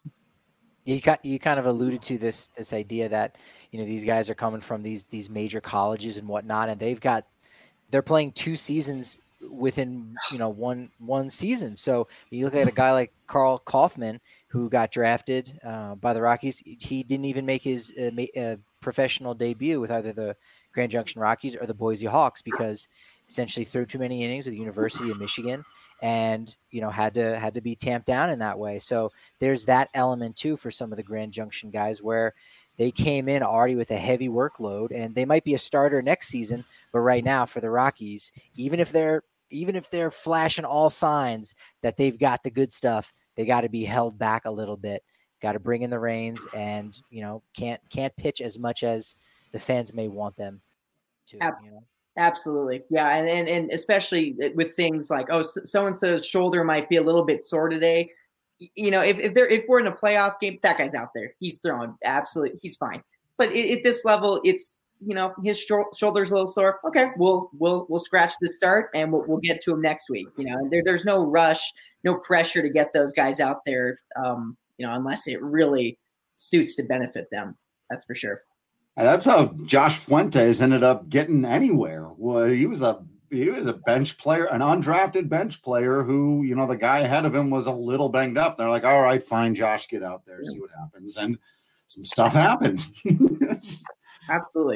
You got, you kind of alluded to this, this idea that, you know, these guys are coming from these, these major colleges and whatnot, and they've got, they're playing two seasons within, you know, one, one season. So you look at a guy like Carl Kaufman, who got drafted uh, by the Rockies. He didn't even make his uh, ma- uh, professional debut with either the Grand Junction Rockies or the Boise Hawks because essentially threw too many innings with the University of Michigan and, you know, had to had to be tamped down in that way. So there's that element too for some of the Grand Junction guys where they came in already with a heavy workload and they might be a starter next season, but right now for the Rockies, even if they're even if they're flashing all signs that they've got the good stuff, they got to be held back a little bit, got to bring in the reins and, you know, can't, can't pitch as much as the fans may want them to, you know? Absolutely. Yeah. And, and, and especially with things like, oh, so-and-so's shoulder might be a little bit sore today. You know, if, if they're, if we're in a playoff game, that guy's out there, he's throwing absolutely, he's fine. But at, at this level, it's, you know, his sh- shoulder's a little sore. Okay. We'll, we'll, we'll scratch the start and we'll, we'll get to him next week. You know, there, there's no rush, no pressure to get those guys out there, um, you know, unless it really suits to benefit them. That's for sure. And that's how Josh Fuentes ended up getting anywhere. Well, he was a he was a bench player, an undrafted bench player who, you know, the guy ahead of him was a little banged up. They're like, all right, fine, Josh, get out there, see what happens. And some stuff happened. Absolutely.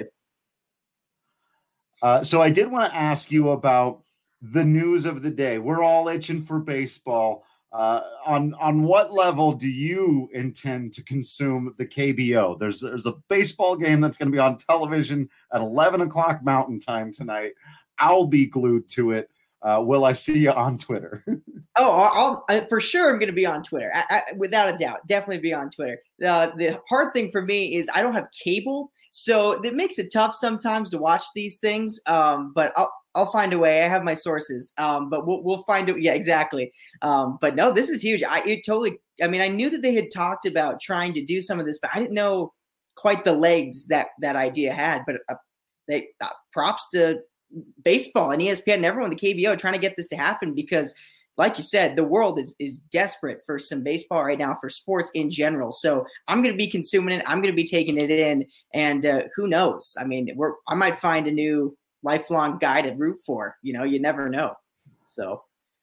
Uh, so I did want to ask you about the news of the day. We're all itching for baseball. Uh, on on what level do you intend to consume the K B O? There's there's a baseball game that's going to be on television at eleven o'clock Mountain Time tonight. I'll be glued to it. Uh, will I see you on Twitter? Oh, I'll, I, for sure I'm going to be on Twitter. I, I, without a doubt, definitely be on Twitter. Uh, the hard thing for me is I don't have cable, so it makes it tough sometimes to watch these things. Um, but I'll I'll find a way. I have my sources. Um, but we'll we'll find it. Yeah, exactly. Um, but no, this is huge. I it totally. I mean, I knew that they had talked about trying to do some of this, but I didn't know quite the legs that that idea had. But uh, they uh, props to baseball and E S P N and everyone, the K B O, trying to get this to happen because, like you said, the world is is desperate for some baseball right now, for sports in general. So I'm going to be consuming it. I'm going to be taking it in, and uh, who knows? I mean, we're I might find a new lifelong guy to root for. You know, you never know. So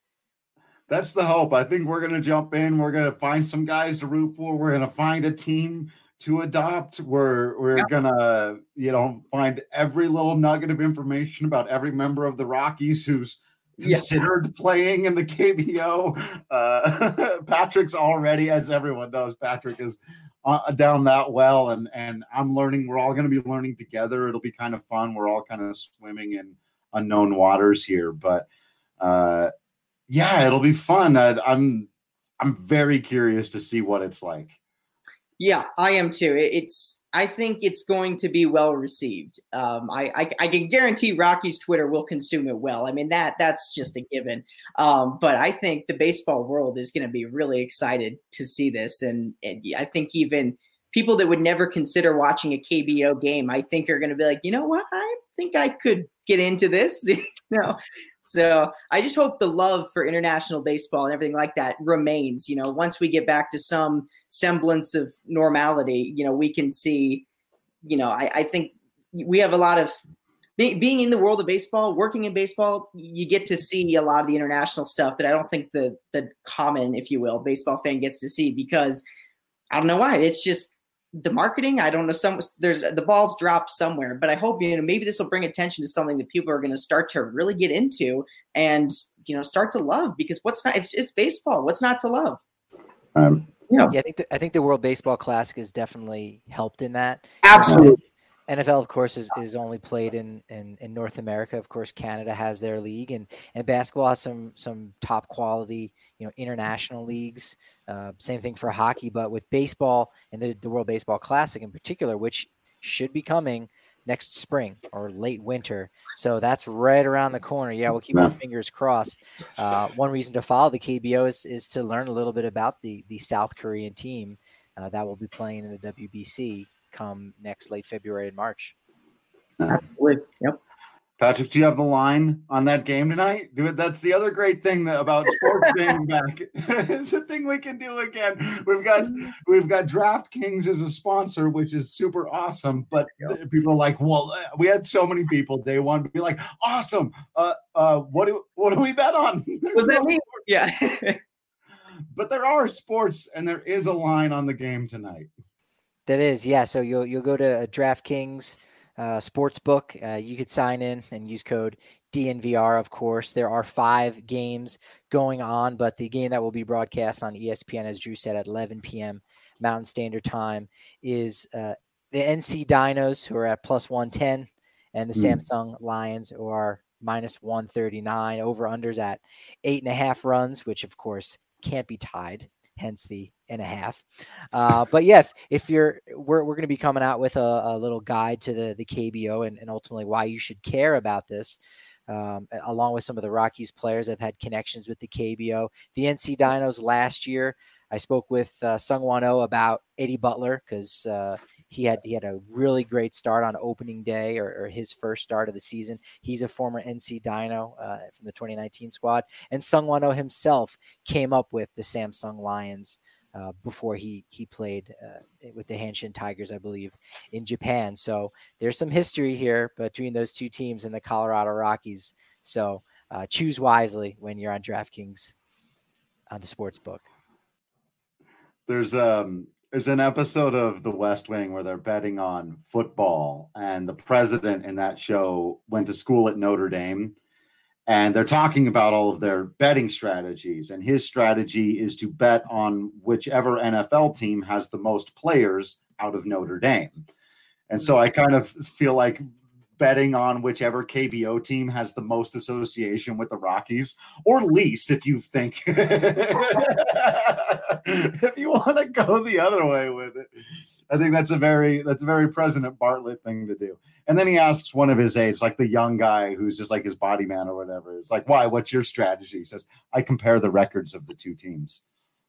that's the hope. I think we're going to jump in. We're going to find some guys to root for. We're going to find a team to adopt. We're we're yeah. gonna you know find every little nugget of information about every member of the Rockies who's considered yeah. playing in the K B O. Uh, Patrick's already, as everyone knows, Patrick is uh, down that well, and and I'm learning. We're all going to be learning together. It'll be kind of fun. We're all kind of swimming in unknown waters here, but uh, yeah, it'll be fun. I, I'm I'm very curious to see what it's like. Yeah, I am too. It's I think it's going to be well received. Um, I, I I can guarantee Rocky's Twitter will consume it well. I mean, that that's just a given. Um, but I think the baseball world is going to be really excited to see this. And, and I think even people that would never consider watching a K B O game, I think are going to be like, you know what? I think I could get into this. you know? So I just hope the love for international baseball and everything like that remains. You know, once we get back to some semblance of normality, you know, we can see, you know, I, I think we have a lot of be, being in the world of baseball, working in baseball, you get to see a lot of the international stuff that I don't think the the common, if you will, baseball fan gets to see, because I don't know why. It's just the marketing. I don't know. Some there's the balls dropped somewhere, but I hope, you know, maybe this will bring attention to something that people are going to start to really get into and, you know, start to love, because what's not, it's it's baseball. What's not to love? Um, yeah, I think the, I think the World Baseball Classic has definitely helped in that. Absolutely. N F L, of course, is, is only played in, in, in North America. Of course, Canada has their league, and, and basketball has some some top quality, you know, international leagues. Uh, same thing for hockey, but with baseball and the, the World Baseball Classic in particular, which should be coming next spring or late winter. So that's right around the corner. Yeah, we'll keep our fingers crossed. Uh, one reason to follow the K B O is, is to learn a little bit about the, the South Korean team uh, that will be playing in the W B C come next late February and March. Absolutely. Yep. Patrick, do you have the line on that game tonight? Do it. That's the other great thing that, about sports being back. It's a thing we can do again. We've got we've got DraftKings as a sponsor, which is super awesome. But yep. people are like, well, we had so many people day one be like, awesome. Uh, uh, what do what do we bet on? Was that me? Yeah. But there are sports, and there is a line on the game tonight. That is, yeah. So you'll you'll go to a DraftKings uh, Sportsbook. Uh, you could sign in and use code D N V R. Of course, there are five games going on, but the game that will be broadcast on E S P N, as Drew said, at eleven p.m. Mountain Standard Time, is uh, the N C Dinos, who are at plus one ten, and the mm. Samsung Lions, who are minus one thirty-nine. Over unders at eight and a half runs, which of course can't be tied. Hence the and a half. Uh, but yes, if you're, we're, we're going to be coming out with a, a little guide to the, the K B O and, and ultimately why you should care about this. Um, along with some of the Rockies players that have had connections with the K B O, the N C Dinos last year, I spoke with uh, Sungwon Oh about Eddie Butler, because uh, he had he had a really great start on opening day, or, or his first start of the season. He's a former N C Dino uh, from the twenty nineteen squad, and Sungwon Oh himself came up with the Samsung Lions uh, before he he played uh, with the Hanshin Tigers, I believe, in Japan. So there's some history here between those two teams and the Colorado Rockies. So uh, choose wisely when you're on DraftKings on the sports book. There's um there's an episode of The West Wing where they're betting on football, and the president in that show went to school at Notre Dame, and they're talking about all of their betting strategies, and his strategy is to bet on whichever N F L team has the most players out of Notre Dame. And so I kind of feel like betting on whichever K B O team has the most association with the Rockies, or least if you think if you want to go the other way with it. I think that's a very that's a very President Bartlett thing to do. And then he asks one of his aides, like the young guy who's just like his body man or whatever. It's like, why? What's your strategy? He says, I compare the records of the two teams.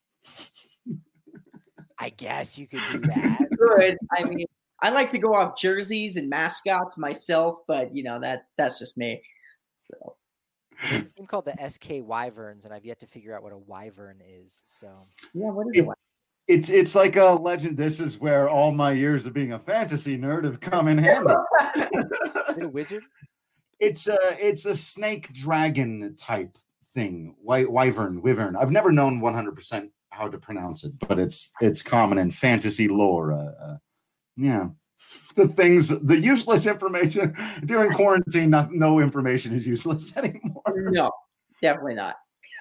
I guess you could do that. Good. I mean, I like to go off jerseys and mascots myself, but you know that that's just me. So there's a team called the S K Wyverns, and I've yet to figure out what a wyvern is. So yeah, what is it? it? It's it's like a legend. This is where all my years of being a fantasy nerd have come in handy. Is it a wizard? It's a it's a snake dragon type thing. Wy- wyvern, wyvern. I've never known one hundred percent how to pronounce it, but it's it's common in fantasy lore. Uh, uh, yeah, the things, the useless information during quarantine. Not, no information is useless anymore. No, definitely not.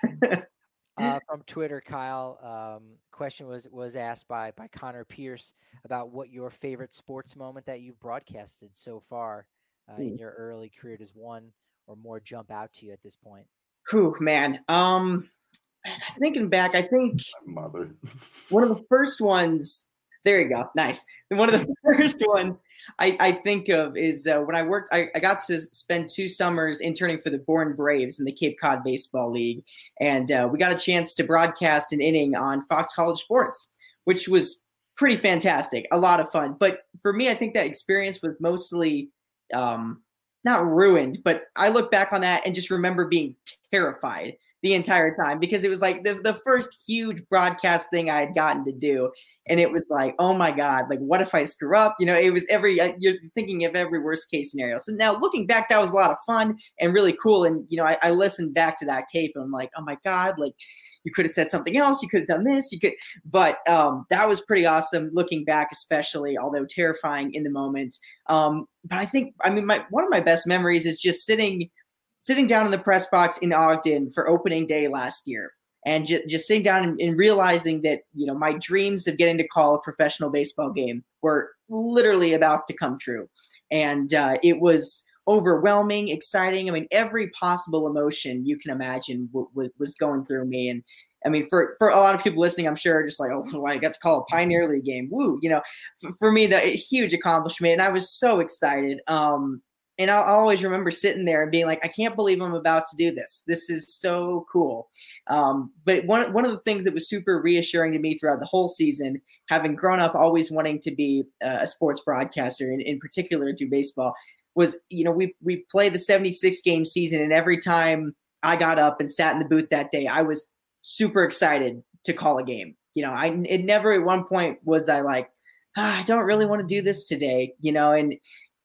Uh, from Twitter, Kyle, um, question was was asked by by Connor Pierce about what your favorite sports moment that you've broadcasted so far uh, in your early career. Does one or more jump out to you at this point? Whew, man. Um, thinking back, I think My mother. one of the first ones. There you go. Nice. And one of the first ones I, I think of is uh, when I worked, I, I got to spend two summers interning for the Bourne Braves in the Cape Cod Baseball League. And uh, we got a chance to broadcast an inning on Fox College Sports, which was pretty fantastic. A lot of fun. But for me, I think that experience was mostly um, not ruined, but I look back on that and just remember being terrified the entire time because it was like the, the first huge broadcast thing I had gotten to do. And it was like, oh my God, like, what if I screw up? You know, it was every, you're thinking of every worst case scenario. So now looking back, that was a lot of fun and really cool. And, you know, I, I listened back to that tape and I'm like, oh my God, like you could have said something else. You could have done this. You could, but um, that was pretty awesome looking back, especially, although terrifying in the moment. Um, but I think, I mean, my, one of my best memories is just sitting, sitting down in the press box in Ogden for opening day last year. And just, just sitting down and, and realizing that, you know, my dreams of getting to call a professional baseball game were literally about to come true. And uh, it was overwhelming, exciting. I mean, every possible emotion you can imagine w- w- was going through me. And I mean, for, for a lot of people listening, I'm sure just like, oh, well, I got to call a Pioneer League game. Woo, you know, for, for me, the huge accomplishment. And I was so excited. Um, And I'll, I'll always remember sitting there and being like, I can't believe I'm about to do this. This is so cool. Um, but one, one of the things that was super reassuring to me throughout the whole season, having grown up always wanting to be a sports broadcaster, and in particular do baseball, was, you know, we we played the seventy-six game season, and every time I got up and sat in the booth that day, I was super excited to call a game. You know, I it never at one point was I like, ah, I don't really want to do this today, you know, and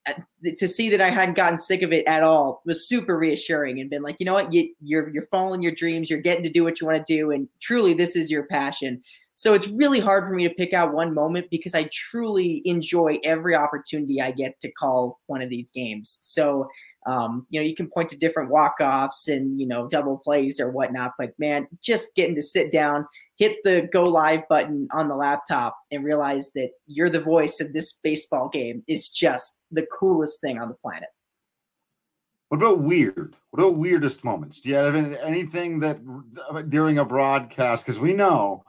to see that I hadn't gotten sick of it at all was super reassuring and been like, you know what, you, you're, you're following your dreams. You're getting to do what you want to do. And truly this is your passion. So it's really hard for me to pick out one moment because I truly enjoy every opportunity I get to call one of these games. So, um, you know, you can point to different walk-offs and, you know, double plays or whatnot, but man, just getting to sit down, hit the go live button on the laptop and realize that you're the voice of this baseball game is just the coolest thing on the planet. What about weird? What about weirdest moments? Do you have any, anything that during a broadcast, because we know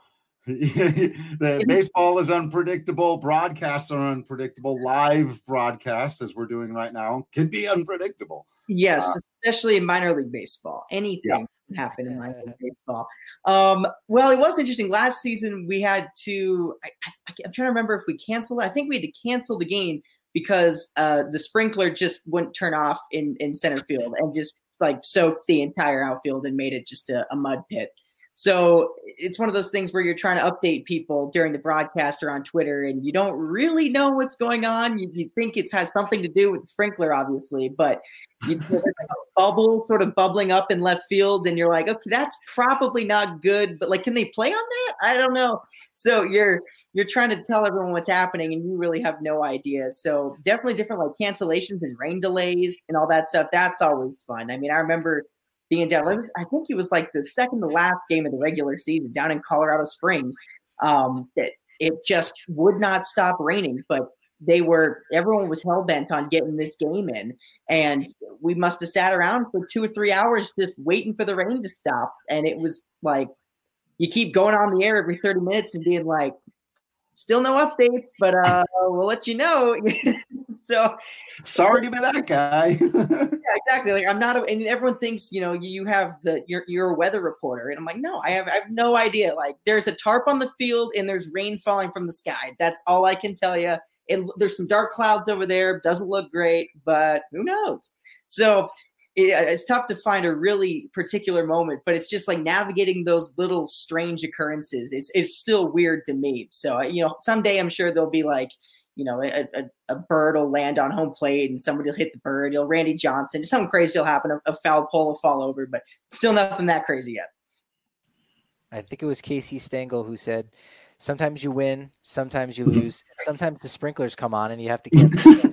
that baseball is unpredictable, broadcasts are unpredictable, live broadcasts, as we're doing right now, can be unpredictable. Yes, uh, especially in minor league baseball. Anything yeah. can happen in minor league baseball. Um, well, it was interesting. Last season, we had to I, I, I'm trying to remember if we canceled it. I think we had to cancel the game because uh, the sprinkler just wouldn't turn off in, in center field and just like soaked the entire outfield and made it just a, a mud pit. So it's one of those things where you're trying to update people during the broadcast or on Twitter, and you don't really know what's going on. You, you think it has something to do with the sprinkler, obviously, but you, there's like a bubble sort of bubbling up in left field, and you're like, okay, that's probably not good. But like, can they play on that? I don't know. So you're you're trying to tell everyone what's happening, and you really have no idea. So definitely different like cancellations and rain delays and all that stuff. That's always fun. I mean, I remember being down, I think it was like the second to last game of the regular season down in Colorado Springs. Um, that it just would not stop raining, but they were, everyone was hell bent on getting this game in. And we must have sat around for two or three hours just waiting for the rain to stop. And it was like, you keep going on the air every thirty minutes and being like, still no updates, but uh, we'll let you know. So sorry to be that guy. Yeah, exactly. Like I'm not, a, and everyone thinks, you know, you have the, you're, you're a weather reporter. And I'm like, no, I have, I have no idea. Like there's a tarp on the field and there's rain falling from the sky. That's all I can tell you. It, there's some dark clouds over there. Doesn't look great, but who knows? So it, it's tough to find a really particular moment, but it's just like navigating those little strange occurrences is, is still weird to me. So, you know, someday I'm sure there'll be like, you know, a, a, a bird will land on home plate and somebody will hit the bird. You know, Randy Johnson, something crazy will happen. A, a foul pole will fall over, but still nothing that crazy yet. I think it was Casey Stengel who said, sometimes you win, sometimes you lose, sometimes the sprinklers come on and you have to cancel.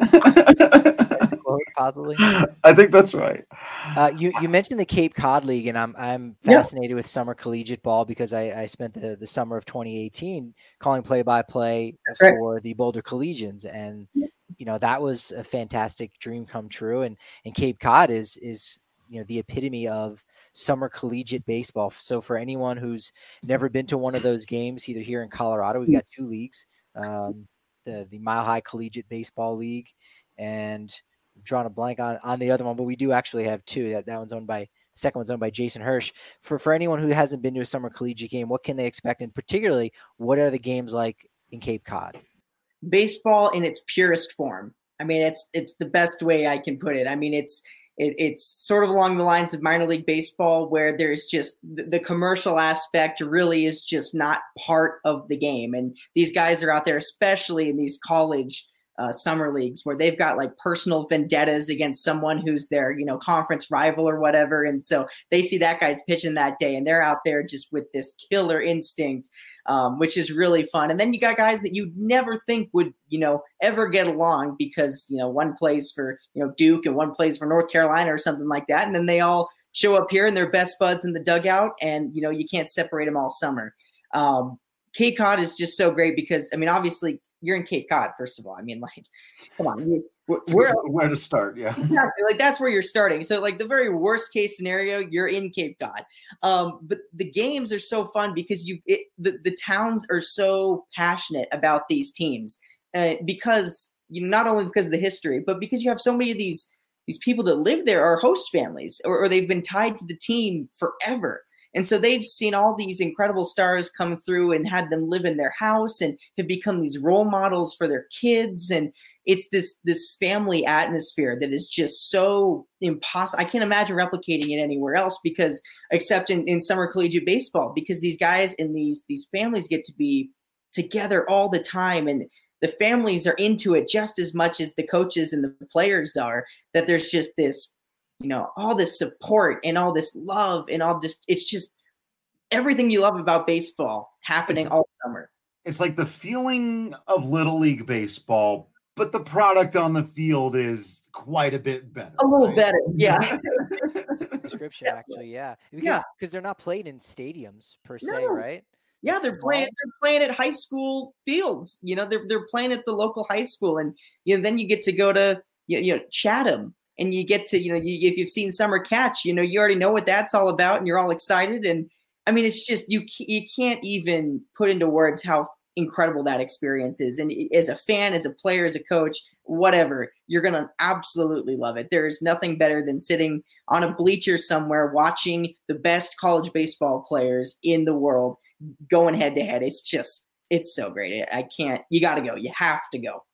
Quote, possibly. I think that's right. Uh, you you mentioned the Cape Cod League, and I'm I'm fascinated yeah. with summer collegiate ball because I, I spent the, the summer of twenty eighteen calling play by play for right. the Boulder Collegians, and you know that was a fantastic dream come true. And and Cape Cod is is you know the epitome of summer collegiate baseball. So for anyone who's never been to one of those games, either here in Colorado, we've got two leagues, um, the the Mile High Collegiate Baseball League, and I'm drawing a blank on, on the other one, but we do actually have two. That that one's owned by, the second one's owned by Jason Hirsch. For for anyone who hasn't been to a summer collegiate game, what can they expect? And particularly, what are the games like in Cape Cod? Baseball in its purest form. I mean, it's it's the best way I can put it. I mean, it's it, it's sort of along the lines of minor league baseball, where there's just the, the commercial aspect really is just not part of the game. And these guys are out there, especially in these college Uh, summer leagues, where they've got like personal vendettas against someone who's their, you know, conference rival or whatever. And so they see that guy's pitching that day and they're out there just with this killer instinct, um, which is really fun. And then you got guys that you'd never think would, you know, ever get along because, you know, one plays for, you know, Duke and one plays for North Carolina or something like that. And then they all show up here and they're best buds in the dugout and, you know, you can't separate them all summer. Um, Cape Cod is just so great because, I mean, obviously, you're in Cape Cod, first of all. I mean, like, come on, you, where where to start? Yeah, exactly. Like that's where you're starting. So, like the very worst case scenario, you're in Cape Cod. Um, but the games are so fun because you it, the the towns are so passionate about these teams, uh, because you know not only because of the history, but because you have so many of these these people that live there are host families, or, or they've been tied to the team forever. And so they've seen all these incredible stars come through and had them live in their house and have become these role models for their kids. And it's this, this family atmosphere that is just so impossible. I can't imagine replicating it anywhere else because except in, in summer collegiate baseball, because these guys and these, these families get to be together all the time. And the families are into it just as much as the coaches and the players are, that there's just this, you know, all this support and all this love and all this, it's just everything you love about baseball happening all summer. It's like the feeling of Little League baseball, but the product on the field is quite a bit better. A little right? better. Yeah. Description actually. Yeah. Because, yeah. Because they're not played in stadiums per se, no. right? Yeah. It's They're small. playing, they're playing at high school fields, you know, they're, they're playing at the local high school. And, you know, then you get to go to, you know, Chatham. And you get to, you know, you, if you've seen Summer Catch, you know, you already know what that's all about and you're all excited. And I mean, it's just, you, you can't even put into words how incredible that experience is. And as a fan, as a player, as a coach, whatever, you're going to absolutely love it. There's nothing better than sitting on a bleacher somewhere watching the best college baseball players in the world going head to head. It's just, it's so great. I can't, you got to go. You have to go.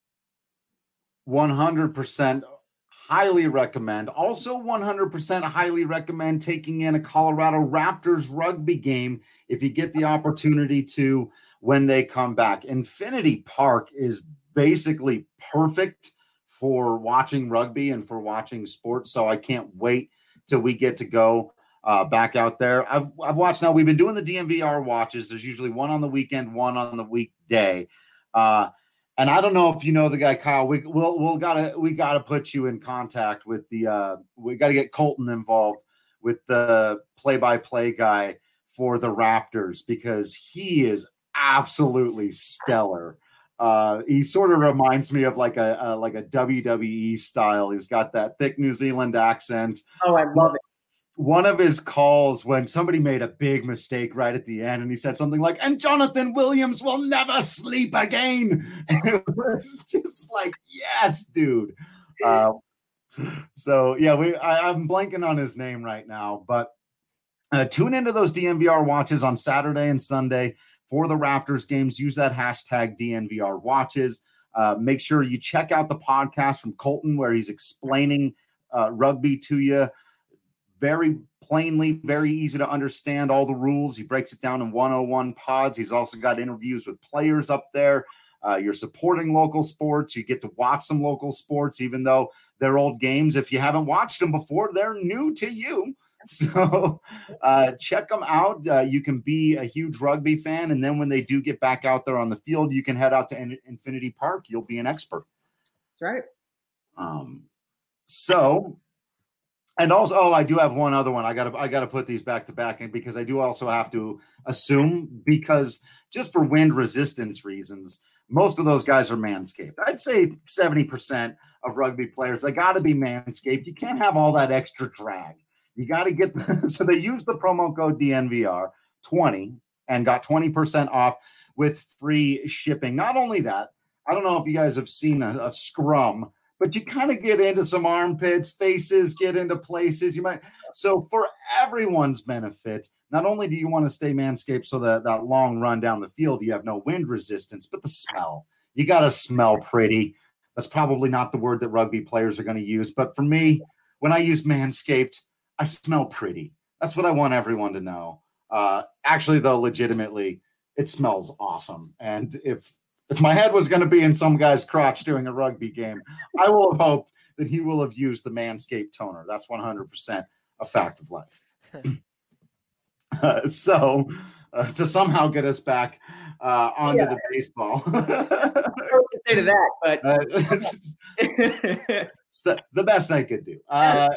one hundred percent. Highly recommend. Also one hundred percent highly recommend taking in a Colorado Raptors rugby game if you get the opportunity to when they come back. Infinity Park is basically perfect for watching rugby and for watching sports, so I can't wait till we get to go uh, back out there. I've, I've watched now. We've been doing the D M V R watches. There's usually one on the weekend, one on the weekday. Uh, And I don't know if you know the guy, Kyle. We we'll we'll gotta we gotta put you in contact with the. Uh, we got to get Colton involved with the play-by-play guy for the Raptors because he is absolutely stellar Uh, he sort of reminds me of like a, a like a W W E style. He's got that thick New Zealand accent. Oh, I love it. One of his calls when somebody made a big mistake right at the end, and he said something like, "And Jonathan Williams will never sleep again." It was just like, yes, dude. Uh, so yeah, we I, I'm blanking on his name right now, but uh, tune into those D N V R watches on Saturday and Sunday for the Raptors games. Use that hashtag D N V R watches. Uh, make sure you check out the podcast from Colton where he's explaining uh, rugby to you. Very plainly, very easy to understand all the rules. He breaks it down in one oh one pods. He's also got interviews with players up there. Uh, you're supporting local sports. You get to watch some local sports, even though they're old games. If you haven't watched them before, they're new to you. So uh, check them out. Uh, you can be a huge rugby fan. And then when they do get back out there on the field, you can head out to In- Infinity Park. You'll be an expert. That's right. Um, so... And also, oh, I do have one other one. I got to, I got to put these back to back in because I do also have to assume, because just for wind resistance reasons, most of those guys are Manscaped. I'd say seventy percent of rugby players, they got to be Manscaped. You can't have all that extra drag. You got to get, the, so they used the promo code D N V R twenty and got twenty percent off with free shipping. Not only that, I don't know if you guys have seen a, a scrum, but you kind of get into some armpits, faces, get into places you might. So for everyone's benefit, not only do you want to stay Manscaped so that that long run down the field, you have no wind resistance, but the smell. You got to smell pretty. That's probably not the word that rugby players are going to use. But for me, when I use Manscaped, I smell pretty. That's what I want everyone to know. Uh, actually, though, legitimately, it smells awesome. And if If my head was going to be in some guy's crotch during a rugby game, I will have hoped that he will have used the Manscaped toner. That's one hundred percent a fact of life. uh, so uh, to somehow get us back uh, onto yeah. the baseball. I don't know what to say to that, but uh, it's, it's the, the best I could do. Uh,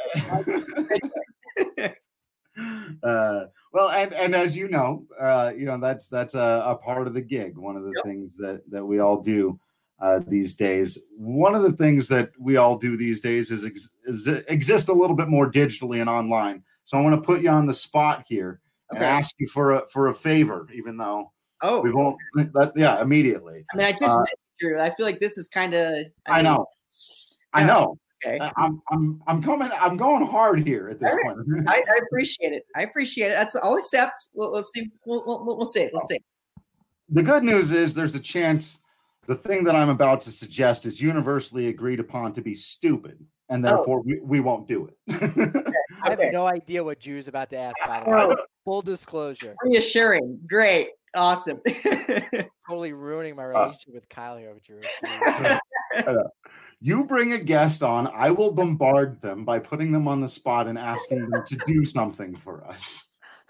uh, well, and, and as you know, uh, you know, that's, that's a, a part of the gig. One of the yep. things that, that we all do uh, these days. One of the things that we all do these days is, ex- is exist a little bit more digitally and online. So I want to put you on the spot here and okay. ask you for a, for a favor, even though oh, we won't, but yeah, immediately. I mean, I just, uh, Drew, I feel like this is kind of, I, I know, yeah. I know. Okay. I'm I'm I'm coming. I'm going hard here at this right. point. I, I appreciate it. I appreciate it. That's I'll accept. We'll, let's see. We'll, we'll, we'll see. Let's see. The good news is there's a chance the thing that I'm about to suggest is universally agreed upon to be stupid, and therefore oh. we, we won't do it. Okay. I have no idea what Drew's about to ask. By the way, oh. Full disclosure. Reassuring. Great. Awesome. Totally ruining my relationship uh, with Kyle here with Drew. You bring a guest on, I will bombard them by putting them on the spot and asking them to do something for us.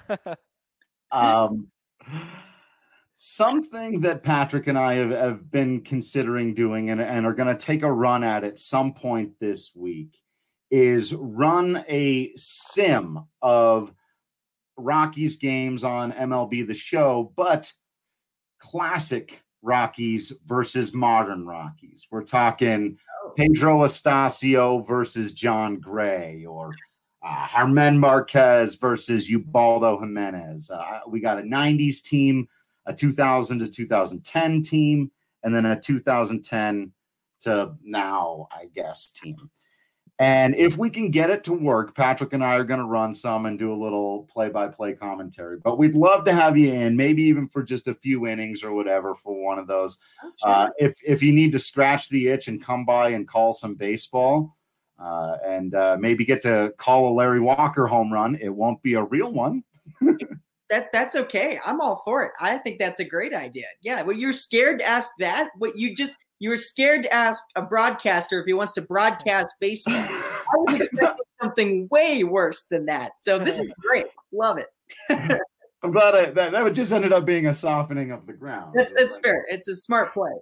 Um, something that Patrick and I have, have been considering doing and, and are going to take a run at at some point this week is run a sim of Rockies games on M L B The Show, but classic Rockies versus modern Rockies. We're talking Pedro Astacio versus John Gray, or uh, Germán Marquez versus Ubaldo Jimenez. Uh, we got a nineties team, a two thousand to two thousand ten team, and then a two thousand ten to now, I guess, team. And if we can get it to work, Patrick and I are going to run some and do a little play-by-play commentary. But we'd love to have you in, maybe even for just a few innings or whatever for one of those. Uh, if if you need to scratch the itch and come by and call some baseball uh, and uh, maybe get to call a Larry Walker home run, it won't be a real one. that That's okay. I'm all for it. I think that's a great idea. Yeah, well, you're scared to ask that. What you just – You were scared to ask a broadcaster if he wants to broadcast baseball. I was expecting something way worse than that. So this is great. Love it. I'm glad I, that that just ended up being a softening of the ground. That's that's fair. It's a smart play.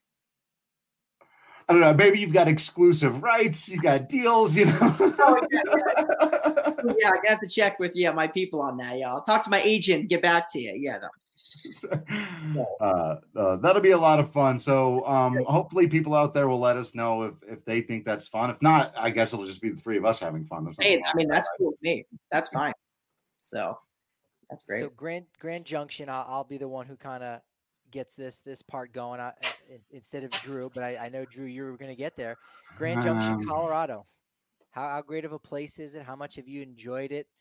I don't know. Maybe you've got exclusive rights. You got deals. You know. Oh, yeah, yeah. yeah, I got to check with yeah my people on that. Yeah, I'll talk to my agent and get back to you. Yeah. No. uh, uh, that'll be a lot of fun. So um, hopefully people out there will let us know if, if they think that's fun. If not, I guess it'll just be the three of us having fun. Hey, I mean, that's cool with me. That's fine. So that's great. So Grand Grand Junction, I'll, I'll be the one who kind of gets this this part going I, instead of Drew, but I, I know, Drew, you were going to get there. Grand Junction, Um, Colorado. How, how great of a place is it? How much have you enjoyed it?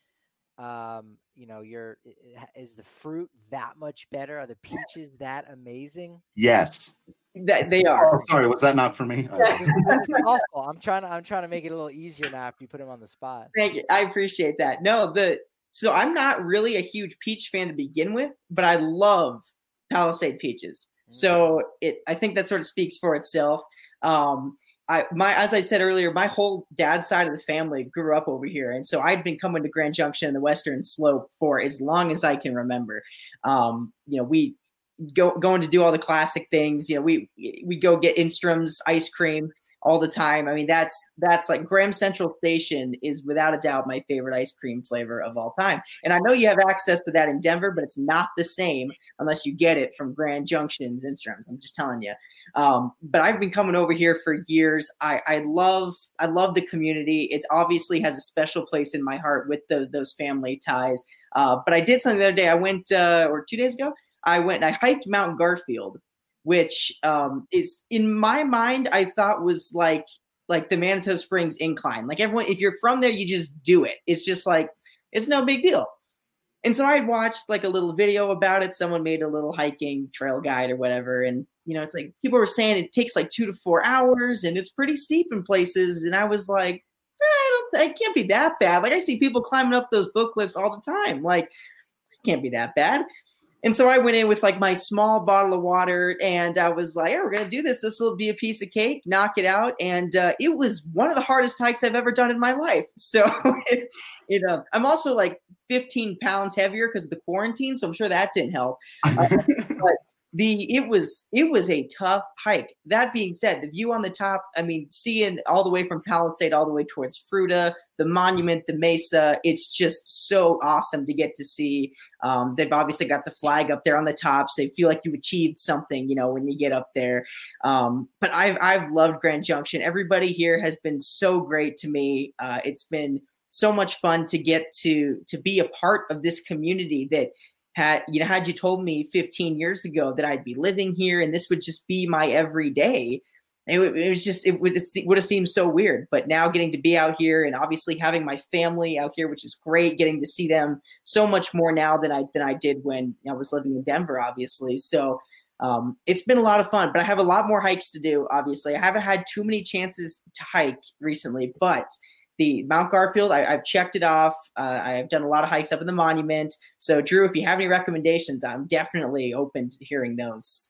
Um, you know, you're, is the fruit that much better? Are the peaches that amazing? Yes. That they are. Oh, sorry, was that not for me? This is, this is awful. I'm trying to I'm trying to make it a little easier now after you put him on the spot. Thank you. I appreciate that. No, the so I'm not really a huge peach fan to begin with, but I love Palisade peaches. So it I think that sort of speaks for itself. Um, I my as I said earlier, my whole dad's side of the family grew up over here, and so I'd been coming to Grand Junction and the Western Slope for as long as I can remember. Um, you know, we go going to do all the classic things. You know, we we go get Instrum's ice cream all the time. I mean, that's that's like Graham Central Station is without a doubt my favorite ice cream flavor of all time. And I know you have access to that in Denver, but it's not the same unless you get it from Grand Junction's Instrum's. I'm just telling you. Um, but I've been coming over here for years. I, I love I love the community. It obviously has a special place in my heart with those those family ties. Uh, but I did something the other day. I went uh, or two days ago. I went and I hiked Mount Garfield, which um, is in my mind, I thought was like, like the Manitou Springs incline. Like everyone, if you're from there, you just do it. It's just like, it's no big deal. And so I watched like a little video about it. Someone made a little hiking trail guide or whatever. And, you know, it's like people were saying it takes like two to four hours and it's pretty steep in places. And I was like, eh, I don't, it can't be that bad. Like I see people climbing up those book cliffs all the time. Like it can't be that bad. And so I went in with like my small bottle of water and I was like, yeah, we're going to do this. This will be a piece of cake, knock it out. And uh, it was one of the hardest hikes I've ever done in my life. So, it, you know, I'm also like fifteen pounds heavier because of the quarantine. So I'm sure that didn't help. Uh, but the, it was, it was a tough hike. That being said, the view on the top, I mean, seeing all the way from Palisade, all the way towards Fruta, the monument, the mesa, it's just so awesome to get to see. Um, they've obviously got the flag up there on the top, so you feel like you've achieved something, you know, when you get up there. Um, but I've, I've loved Grand Junction. Everybody here has been so great to me. Uh, it's been so much fun to get to, to be a part of this community that had, you know, had you told me fifteen years ago that I'd be living here and this would just be my everyday, it, it was just, it would, it would have seemed so weird. But now getting to be out here and obviously having my family out here, which is great, getting to see them so much more now than I, than I did when I was living in Denver, obviously. So um, it's been a lot of fun, but I have a lot more hikes to do. Obviously, I haven't had too many chances to hike recently, but the Mount Garfield, I, I've checked it off. Uh, I've done a lot of hikes up in the monument. So Drew, if you have any recommendations, I'm definitely open to hearing those.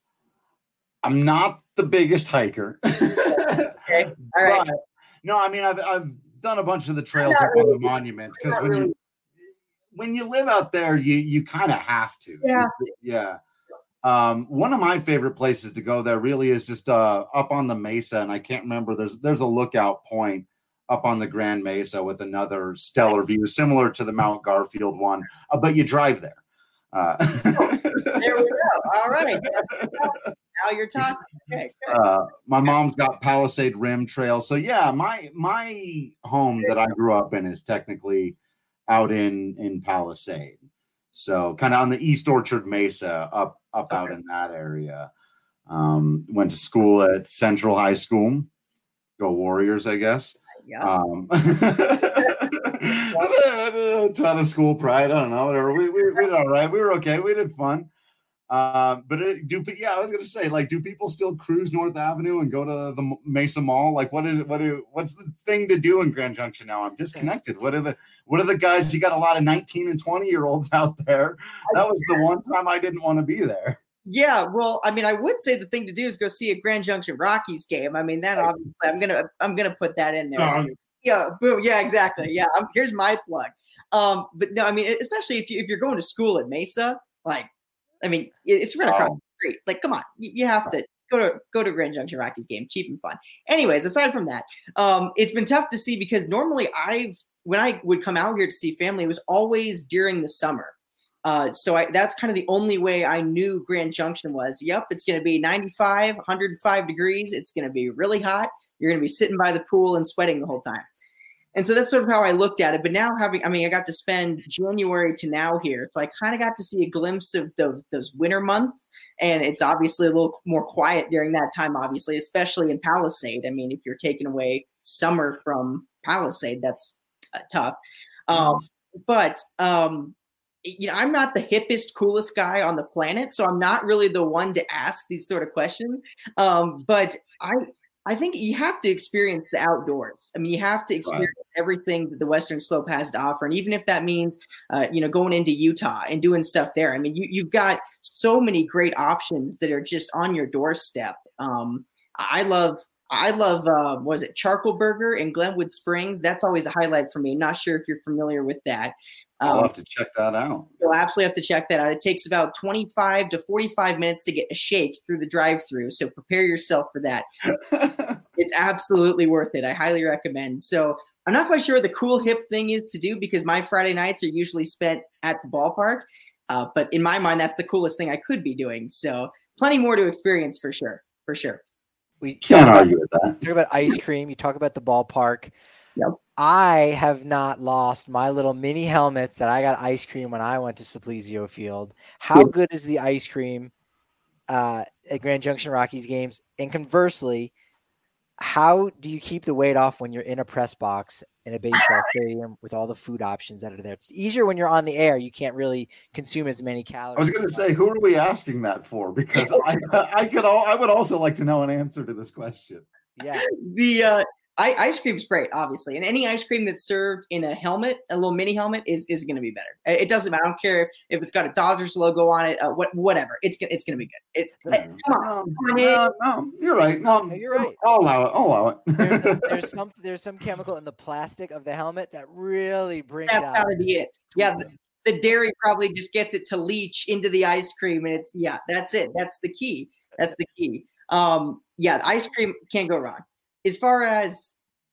I'm not the biggest hiker. Okay. All right. But, no, I mean, I've, I've done a bunch of the trails up really, on the monument because when really. you, when you live out there, you, you kind of have to. Yeah. Yeah. Um, one of my favorite places to go there really is just uh, up on the mesa. And I can't remember, there's, there's a lookout point up on the Grand Mesa with another stellar view, similar to the Mount Garfield one, uh, but you drive there. Uh, there we go. All right. Now you're talking. Okay, uh, my mom's got Palisade Rim Trail. So yeah, my my home that I grew up in is technically out in, in Palisade. So kind of on the East Orchard Mesa, up up okay. out in that area. Um, went to school at Central High School. Go Warriors, I guess. Yeah. Um, a ton of school pride. I don't know. Whatever. We, we, we did all right. We were okay. We did fun. Uh, but it, do yeah, I was gonna say, like, do people still cruise North Avenue and go to the Mesa Mall? Like, what is it? What do? What's the thing to do in Grand Junction now? I'm disconnected. What are the? What are the guys? You got a lot of nineteen and twenty year olds out there. That was the one time I didn't want to be there. Yeah, well, I mean, I would say the thing to do is go see a Grand Junction Rockies game. I mean, that obviously, I'm gonna, I'm gonna put that in there. So, yeah, boom, yeah, exactly. Yeah, I'm, here's my plug. Um, but no, I mean, especially if you if you're going to school at Mesa, like, I mean, it's right across oh. the street. Like, come on, you, you have to go to go to Grand Junction Rockies game, cheap and fun. Anyways, aside from that, um, it's been tough to see because normally I've when I would come out here to see family, it was always during the summer. Uh, so I, that's kind of the only way I knew Grand Junction was. Yep, it's going to be ninety-five, one hundred five degrees. It's going to be really hot. You're going to be sitting by the pool and sweating the whole time. And so that's sort of how I looked at it. But now having, I mean, I got to spend January to now here. So I kind of got to see a glimpse of those, those winter months. And it's obviously a little more quiet during that time, obviously, especially in Palisade. I mean, if you're taking away summer from Palisade, that's uh, tough. Um, but, um, you know, I'm not the hippest, coolest guy on the planet. So I'm not really the one to ask these sort of questions. Um, but I, I think you have to experience the outdoors. I mean, you have to experience right. everything that the Western Slope has to offer. And even if that means, uh, you know, going into Utah and doing stuff there, I mean, you, you've got so many great options that are just on your doorstep. Um, I love, I love, uh, what was it, Charcoal Burger in Glenwood Springs? That's always a highlight for me. Not sure if you're familiar with that. Um, I'll have to check that out. You'll absolutely have to check that out. It takes about twenty-five to forty-five minutes to get a shake through the drive-thru, so prepare yourself for that. It's absolutely worth it. I highly recommend. So I'm not quite sure what the cool hip thing is to do because my Friday nights are usually spent at the ballpark. Uh, but in my mind, that's the coolest thing I could be doing. So plenty more to experience for sure. For sure. We can't argue with that. Talk about ice cream. You talk about the ballpark. Yep. I have not lost my little mini helmets that I got ice cream when I went to Simplesio Field. How good is the ice cream uh, at Grand Junction Rockies games? And conversely, how do you keep the weight off when you're in a press box in a baseball stadium with all the food options that are there? It's easier when you're on the air. You can't really consume as many calories. I was going to say, who are we asking that for? Because I, I could, all, I would also like to know an answer to this question. Yeah, the uh, I, ice cream's great, obviously, and any ice cream that's served in a helmet, a little mini helmet, is is going to be better. It doesn't matter. I don't care if, if it's got a Dodgers logo on it. Uh, what whatever. It's it's going to be good. It, mm-hmm. Come on, no, no, no, you're right. No, no, you're right. I'll allow it. I'll allow it. there's, there's some there's some chemical in the plastic of the helmet that really brings That's out. That's gotta be it. Yeah, the, the dairy probably just gets it to leach into the ice cream, and it's yeah, that's it. That's the key. That's the key. Um, yeah, ice cream can't go wrong. As far as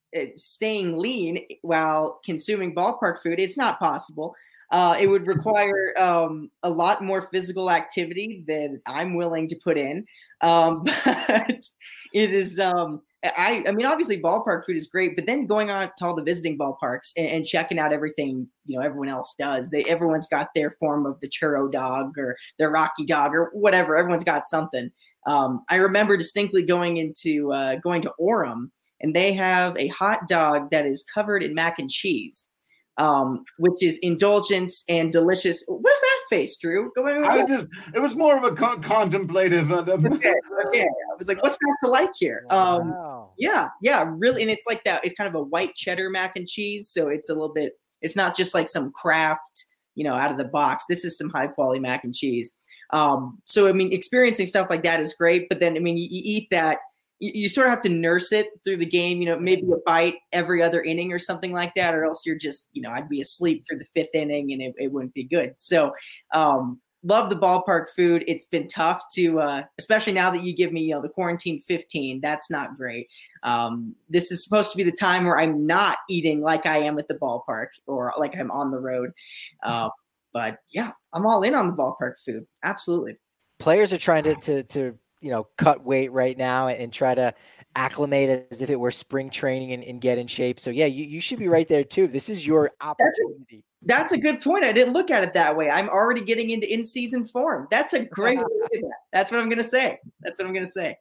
staying lean while consuming ballpark food, it's not possible. Uh, it would require um, a lot more physical activity than I'm willing to put in. Um, but it is, um, I, I mean, obviously ballpark food is great, but then going on to all the visiting ballparks and, and checking out everything, you know, everyone else does. They, everyone's got their form of the churro dog or their Rocky dog or whatever. Everyone's got something. Um, I remember distinctly going into uh, going to Orem, and they have a hot dog that is covered in mac and cheese, um, which is indulgent and delicious. What is that face, Drew? Go ahead. I just, it was more of a co- contemplative. Uh, okay, okay. I was like, what's not to like here? Um, wow. Yeah, yeah, really. And it's like that. It's kind of a white cheddar mac and cheese. So it's a little bit, it's not just like some Kraft, you know, out of the box. This is some high quality mac and cheese. Um, so, I mean, experiencing stuff like that is great. But then, I mean, you, you eat that. You, you sort of have to nurse it through the game, you know, maybe a bite every other inning or something like that, or else you're just, you know, I'd be asleep through the fifth inning and it, it wouldn't be good. So, um, love the ballpark food. It's been tough to, uh, especially now that you give me, you know, the quarantine fifteen, that's not great. Um, this is supposed to be the time where I'm not eating like I am at the ballpark or like I'm on the road. Uh, but yeah, I'm all in on the ballpark food. Absolutely. Players are trying to, to, to, you know, cut weight right now and try to acclimate as if it were spring training and, and get in shape. So yeah, you, you should be right there too. This is your opportunity. That's a, that's a good point. I didn't look at it that way. I'm already getting into in-season form. That's a great way to look at that. That's what I'm going to say. That's what I'm going to say.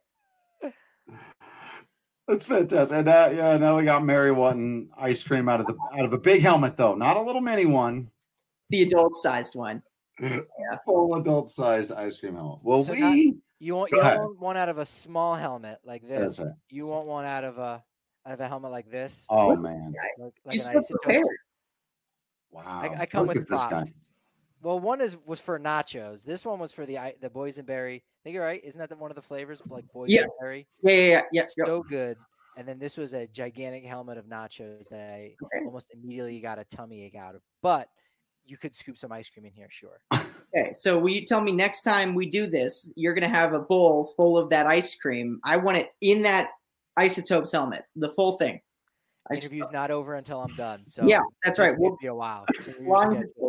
That's fantastic. And uh, yeah, now we got Mary wanting ice cream out of the out of a big helmet though, not a little mini one. The adult-sized one. Yeah. Full adult-sized ice cream helmet. Well, so we. Not, you want you don't want one out of a small helmet like this. Right. You want one out of a out of a helmet like this. Oh man! Like, like you so prepared. Wow! I, I come Look with at this guy. props. Well, one is was for nachos. This one was for the the boysenberry. I think you're right. Isn't that the, one of the flavors like boysenberry? Yeah. Yeah, yeah, yeah. So yep. good. And then this was a gigantic helmet of nachos that I okay. almost immediately got a tummy ache out of. But you could scoop some ice cream in here, sure. Okay, so will you tell me next time we do this, you're going to have a bowl full of that ice cream. I want it in that Isotopes helmet, the full thing. Interview's not over until I'm done. So yeah, that's right. We'll We'll be a while. long,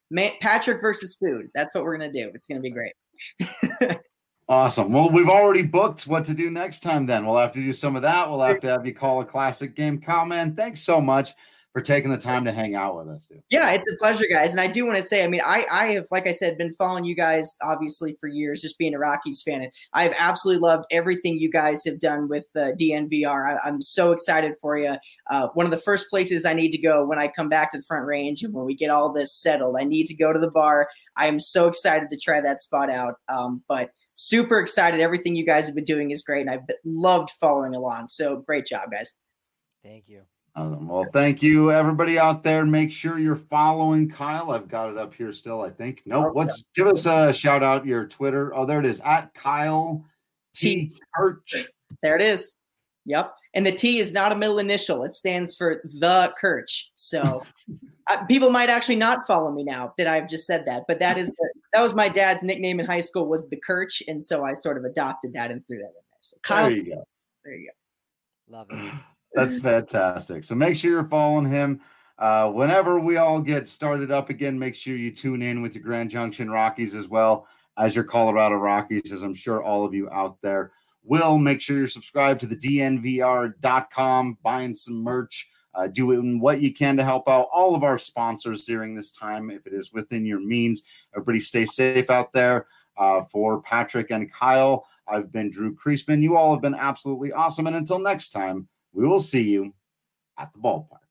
Man, Patrick versus food. That's what we're going to do. It's going to be great. Awesome. Well, we've already booked what to do next time then. We'll have to do some of that. We'll have to have you call a classic game. Kyle, man, thanks so much for taking the time to hang out with us, dude. Yeah, it's a pleasure, guys. And I do want to say, I mean, I, I have, like I said, been following you guys, obviously, for years, just being a Rockies fan. And I have absolutely loved everything you guys have done with uh, D N V R. I, I'm so excited for you. Uh, one of the first places I need to go when I come back to the Front Range and when we get all this settled, I need to go to the bar. I am so excited to try that spot out. Um, but super excited. Everything you guys have been doing is great. And I've loved following along. So great job, guys. Thank you. Um, well, thank you, everybody out there. Make sure you're following Kyle. I've got it up here still, I think. Nope. Let's give us a shout out your Twitter. Oh, there it is. At Kyle T. Kirch. There it is. Yep. And the T is not a middle initial. It stands for the Kirch. So uh, people might actually not follow me now that I've just said that. But that is the, that was my dad's nickname in high school was the Kirch. And so I sort of adopted that and threw that in there. So Kyle, there you go. There you go. Love it. That's fantastic. So make sure you're following him. Uh, whenever we all get started up again, make sure you tune in with your Grand Junction Rockies as well as your Colorado Rockies, as I'm sure all of you out there will. Make sure you're subscribed to the D N V R dot com, buying some merch, uh, doing what you can to help out all of our sponsors during this time, if it is within your means. Everybody stay safe out there. Uh, for Patrick and Kyle, I've been Drew Creasman. You all have been absolutely awesome. And until next time, we will see you at the ballpark.